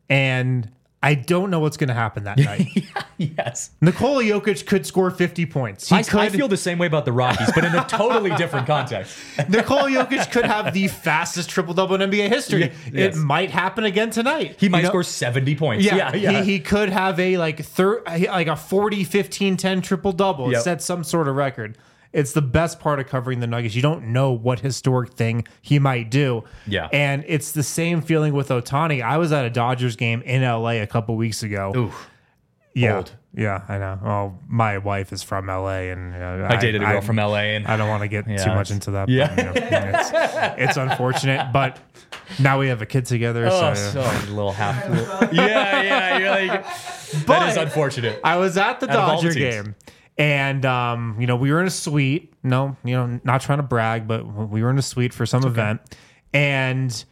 [SPEAKER 1] and I don't know what's going to happen that night.
[SPEAKER 2] Yes.
[SPEAKER 1] Nikola Jokic could score fifty points. He
[SPEAKER 2] I,
[SPEAKER 1] could,
[SPEAKER 2] I feel the same way about the Rockies, but in a totally different context.
[SPEAKER 1] Nikola Jokic could have the fastest triple double in N B A history.
[SPEAKER 2] Yeah, yes.
[SPEAKER 1] It might happen again tonight.
[SPEAKER 2] He might
[SPEAKER 1] You know?
[SPEAKER 2] score seventy points.
[SPEAKER 1] Yeah,
[SPEAKER 2] Yeah, yeah.
[SPEAKER 1] He, he could have a like thir- like a forty, fifteen, ten triple double.
[SPEAKER 2] Yep.
[SPEAKER 1] Set some sort of record. It's the best part of covering the Nuggets. You don't know what historic thing he might do.
[SPEAKER 2] Yeah.
[SPEAKER 1] And it's the same feeling with Ohtani. I was at a Dodgers game in L A a couple weeks ago.
[SPEAKER 2] Ooh.
[SPEAKER 1] yeah.
[SPEAKER 2] bold.
[SPEAKER 1] Yeah, I know. Well, my wife is from L A, and uh,
[SPEAKER 2] I dated a girl
[SPEAKER 1] I-
[SPEAKER 2] from L A, and
[SPEAKER 1] I don't want to get
[SPEAKER 2] Yeah,
[SPEAKER 1] too much
[SPEAKER 2] it's-
[SPEAKER 1] into that.
[SPEAKER 2] yeah.
[SPEAKER 1] But, you know, it's, it's unfortunate, but now we have a kid together.
[SPEAKER 2] Oh,
[SPEAKER 1] so,
[SPEAKER 2] so a little half. yeah, yeah. You're like, that
[SPEAKER 1] But
[SPEAKER 2] is unfortunate.
[SPEAKER 1] I was at the
[SPEAKER 2] Out of all the
[SPEAKER 1] Dodger
[SPEAKER 2] teams.
[SPEAKER 1] game, and um, you know, we were in a suite. No, you know, not trying to brag, but we were in a suite for some event, and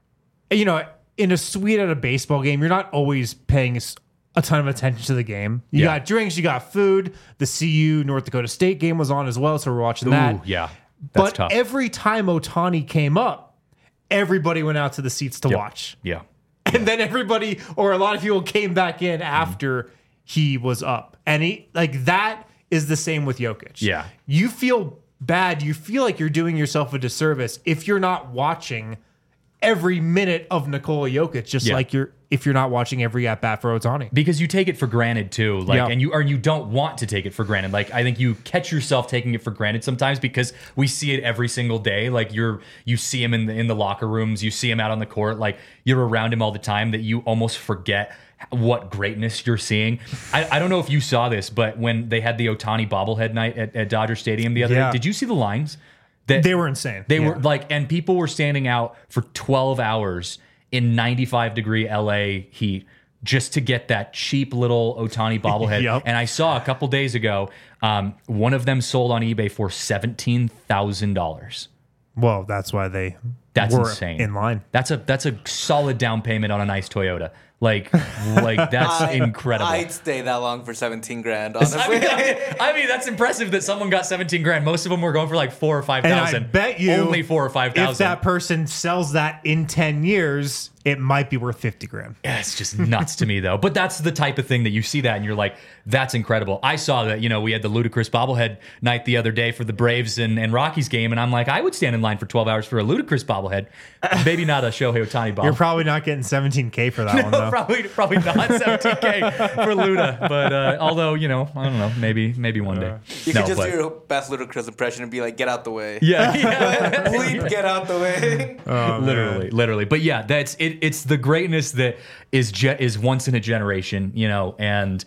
[SPEAKER 1] you know, in a suite at a baseball game, you're not always paying s- a ton of attention to the game. You
[SPEAKER 2] Yeah.
[SPEAKER 1] got drinks, you got food. The C U North Dakota State game was on as well, so we're watching that.
[SPEAKER 2] Ooh, yeah. That's
[SPEAKER 1] But
[SPEAKER 2] tough.
[SPEAKER 1] every time Ohtani came up, everybody went out to the seats to
[SPEAKER 2] Yep.
[SPEAKER 1] watch.
[SPEAKER 2] Yeah.
[SPEAKER 1] And then everybody, or a lot of people, came back in after he was up. And he, like, that is the same with Jokic.
[SPEAKER 2] Yeah.
[SPEAKER 1] You feel bad. You feel like you're doing yourself a disservice if you're not watching every minute of Nikola Jokic, just
[SPEAKER 2] Yeah.
[SPEAKER 1] like you're if you're not watching every at bat for Ohtani.
[SPEAKER 2] Because you take it for granted too, like,
[SPEAKER 1] Yeah.
[SPEAKER 2] and you or you don't want to take it for granted. Like, I think you catch yourself taking it for granted sometimes because we see it every single day. Like, you're you see him in the in the locker rooms, you see him out on the court, like you're around him all the time that you almost forget what greatness you're seeing. I, I don't know if you saw this, but when they had the Ohtani bobblehead night at, at Dodger Stadium the other
[SPEAKER 1] Yeah.
[SPEAKER 2] day, did you see the lines? That
[SPEAKER 1] They were insane.
[SPEAKER 2] They
[SPEAKER 1] Yeah.
[SPEAKER 2] were like, and people were standing out for twelve hours in ninety-five degree L A heat just to get that cheap little Ohtani bobblehead.
[SPEAKER 1] Yep.
[SPEAKER 2] And I saw a couple days ago, um, one of them sold on eBay for seventeen thousand dollars.
[SPEAKER 1] Well, that's why they
[SPEAKER 2] That's
[SPEAKER 1] were
[SPEAKER 2] insane.
[SPEAKER 1] in line.
[SPEAKER 2] That's a that's a solid down payment on a nice Toyota. Like, like that's
[SPEAKER 3] I-
[SPEAKER 2] incredible.
[SPEAKER 3] I'd stay that long for seventeen grand,
[SPEAKER 2] I
[SPEAKER 3] honestly.
[SPEAKER 2] mean, I mean, that's impressive that someone got seventeen grand. Most of them were going for like four or five
[SPEAKER 1] And I
[SPEAKER 2] thousand.
[SPEAKER 1] bet you
[SPEAKER 2] only four or five
[SPEAKER 1] if
[SPEAKER 2] thousand.
[SPEAKER 1] that person sells that in ten years, it might be worth fifty grand.
[SPEAKER 2] Yeah, it's just nuts to me though. But that's the type of thing that you see that and you're like, that's incredible. I saw that, you know, we had the ludicrous bobblehead night the other day for the Braves and, and Rockies game, and I'm like, I would stand in line for twelve hours for a ludicrous bobblehead. Maybe not a Shohei Ohtani bobblehead.
[SPEAKER 1] You're probably not getting seventeen K for that one, though.
[SPEAKER 2] probably probably not seventeen K for Luda. But uh, although, you know, I don't know, maybe maybe one day.
[SPEAKER 3] You
[SPEAKER 2] No,
[SPEAKER 3] could just
[SPEAKER 2] but-
[SPEAKER 3] do your best ludicrous impression and be like, "Get out the way."
[SPEAKER 2] yeah, yeah.
[SPEAKER 3] Bleep, get out the way.
[SPEAKER 1] Oh, man.
[SPEAKER 2] literally, literally. But yeah, that's it. It's the greatness that is ge- is once in a generation, you know. And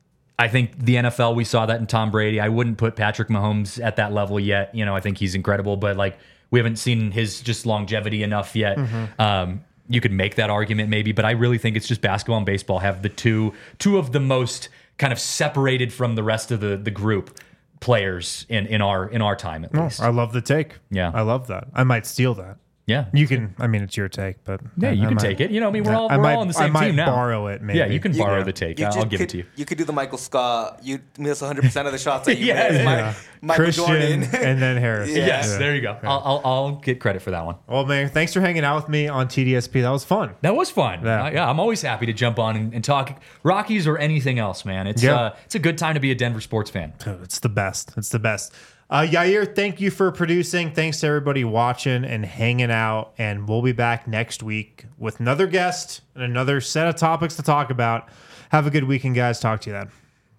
[SPEAKER 2] I think the N F L, we saw that in Tom Brady. I wouldn't put Patrick Mahomes at that level yet. You know, I think he's incredible. But like we haven't seen his just longevity enough yet.
[SPEAKER 1] Mm-hmm.
[SPEAKER 2] Um, you could make that argument maybe, but I really think it's just basketball and baseball have the two two of the most kind of separated from the rest of the the group players in in our in our time at
[SPEAKER 1] Oh,
[SPEAKER 2] least.
[SPEAKER 1] I love the take.
[SPEAKER 2] Yeah.
[SPEAKER 1] I love that. I might steal that.
[SPEAKER 2] Yeah.
[SPEAKER 1] You can, I mean, it's your take, but
[SPEAKER 2] Yeah,
[SPEAKER 1] I,
[SPEAKER 2] you
[SPEAKER 1] I
[SPEAKER 2] can
[SPEAKER 1] might-
[SPEAKER 2] take it. You know, I mean, we're
[SPEAKER 1] Yeah,
[SPEAKER 2] all
[SPEAKER 1] I
[SPEAKER 2] we're
[SPEAKER 1] might,
[SPEAKER 2] all on the
[SPEAKER 1] I
[SPEAKER 2] same
[SPEAKER 1] might
[SPEAKER 2] team now.
[SPEAKER 1] borrow it, maybe.
[SPEAKER 2] Yeah, you can
[SPEAKER 3] You-
[SPEAKER 2] borrow
[SPEAKER 3] yeah.
[SPEAKER 2] the take.
[SPEAKER 3] You
[SPEAKER 2] I'll
[SPEAKER 3] just
[SPEAKER 2] give
[SPEAKER 3] could,
[SPEAKER 2] it to you.
[SPEAKER 3] You could do the Michael Scott. You miss one hundred percent of the shots that you
[SPEAKER 2] Yeah,
[SPEAKER 3] miss.
[SPEAKER 2] yeah.
[SPEAKER 3] Mi- Michael
[SPEAKER 1] Christian
[SPEAKER 3] Jordan.
[SPEAKER 1] and then Harris.
[SPEAKER 3] Yeah.
[SPEAKER 2] Yes,
[SPEAKER 1] Yeah.
[SPEAKER 2] there you go. I'll, I'll I'll get credit for that one.
[SPEAKER 1] Well, man, thanks for hanging out with me on T D S P. That was fun.
[SPEAKER 2] That was fun.
[SPEAKER 1] Yeah.
[SPEAKER 2] Uh, yeah, I'm always happy to jump on and, and talk Rockies or anything else, man. It's
[SPEAKER 1] Yeah.
[SPEAKER 2] uh, it's a good time to be a Denver sports fan.
[SPEAKER 1] Oh, it's the best. It's the best. Uh, Yair, thank you for producing. Thanks to everybody watching and hanging out. And we'll be back next week with another guest and another set of topics to talk about. Have a good weekend, guys. Talk to you then.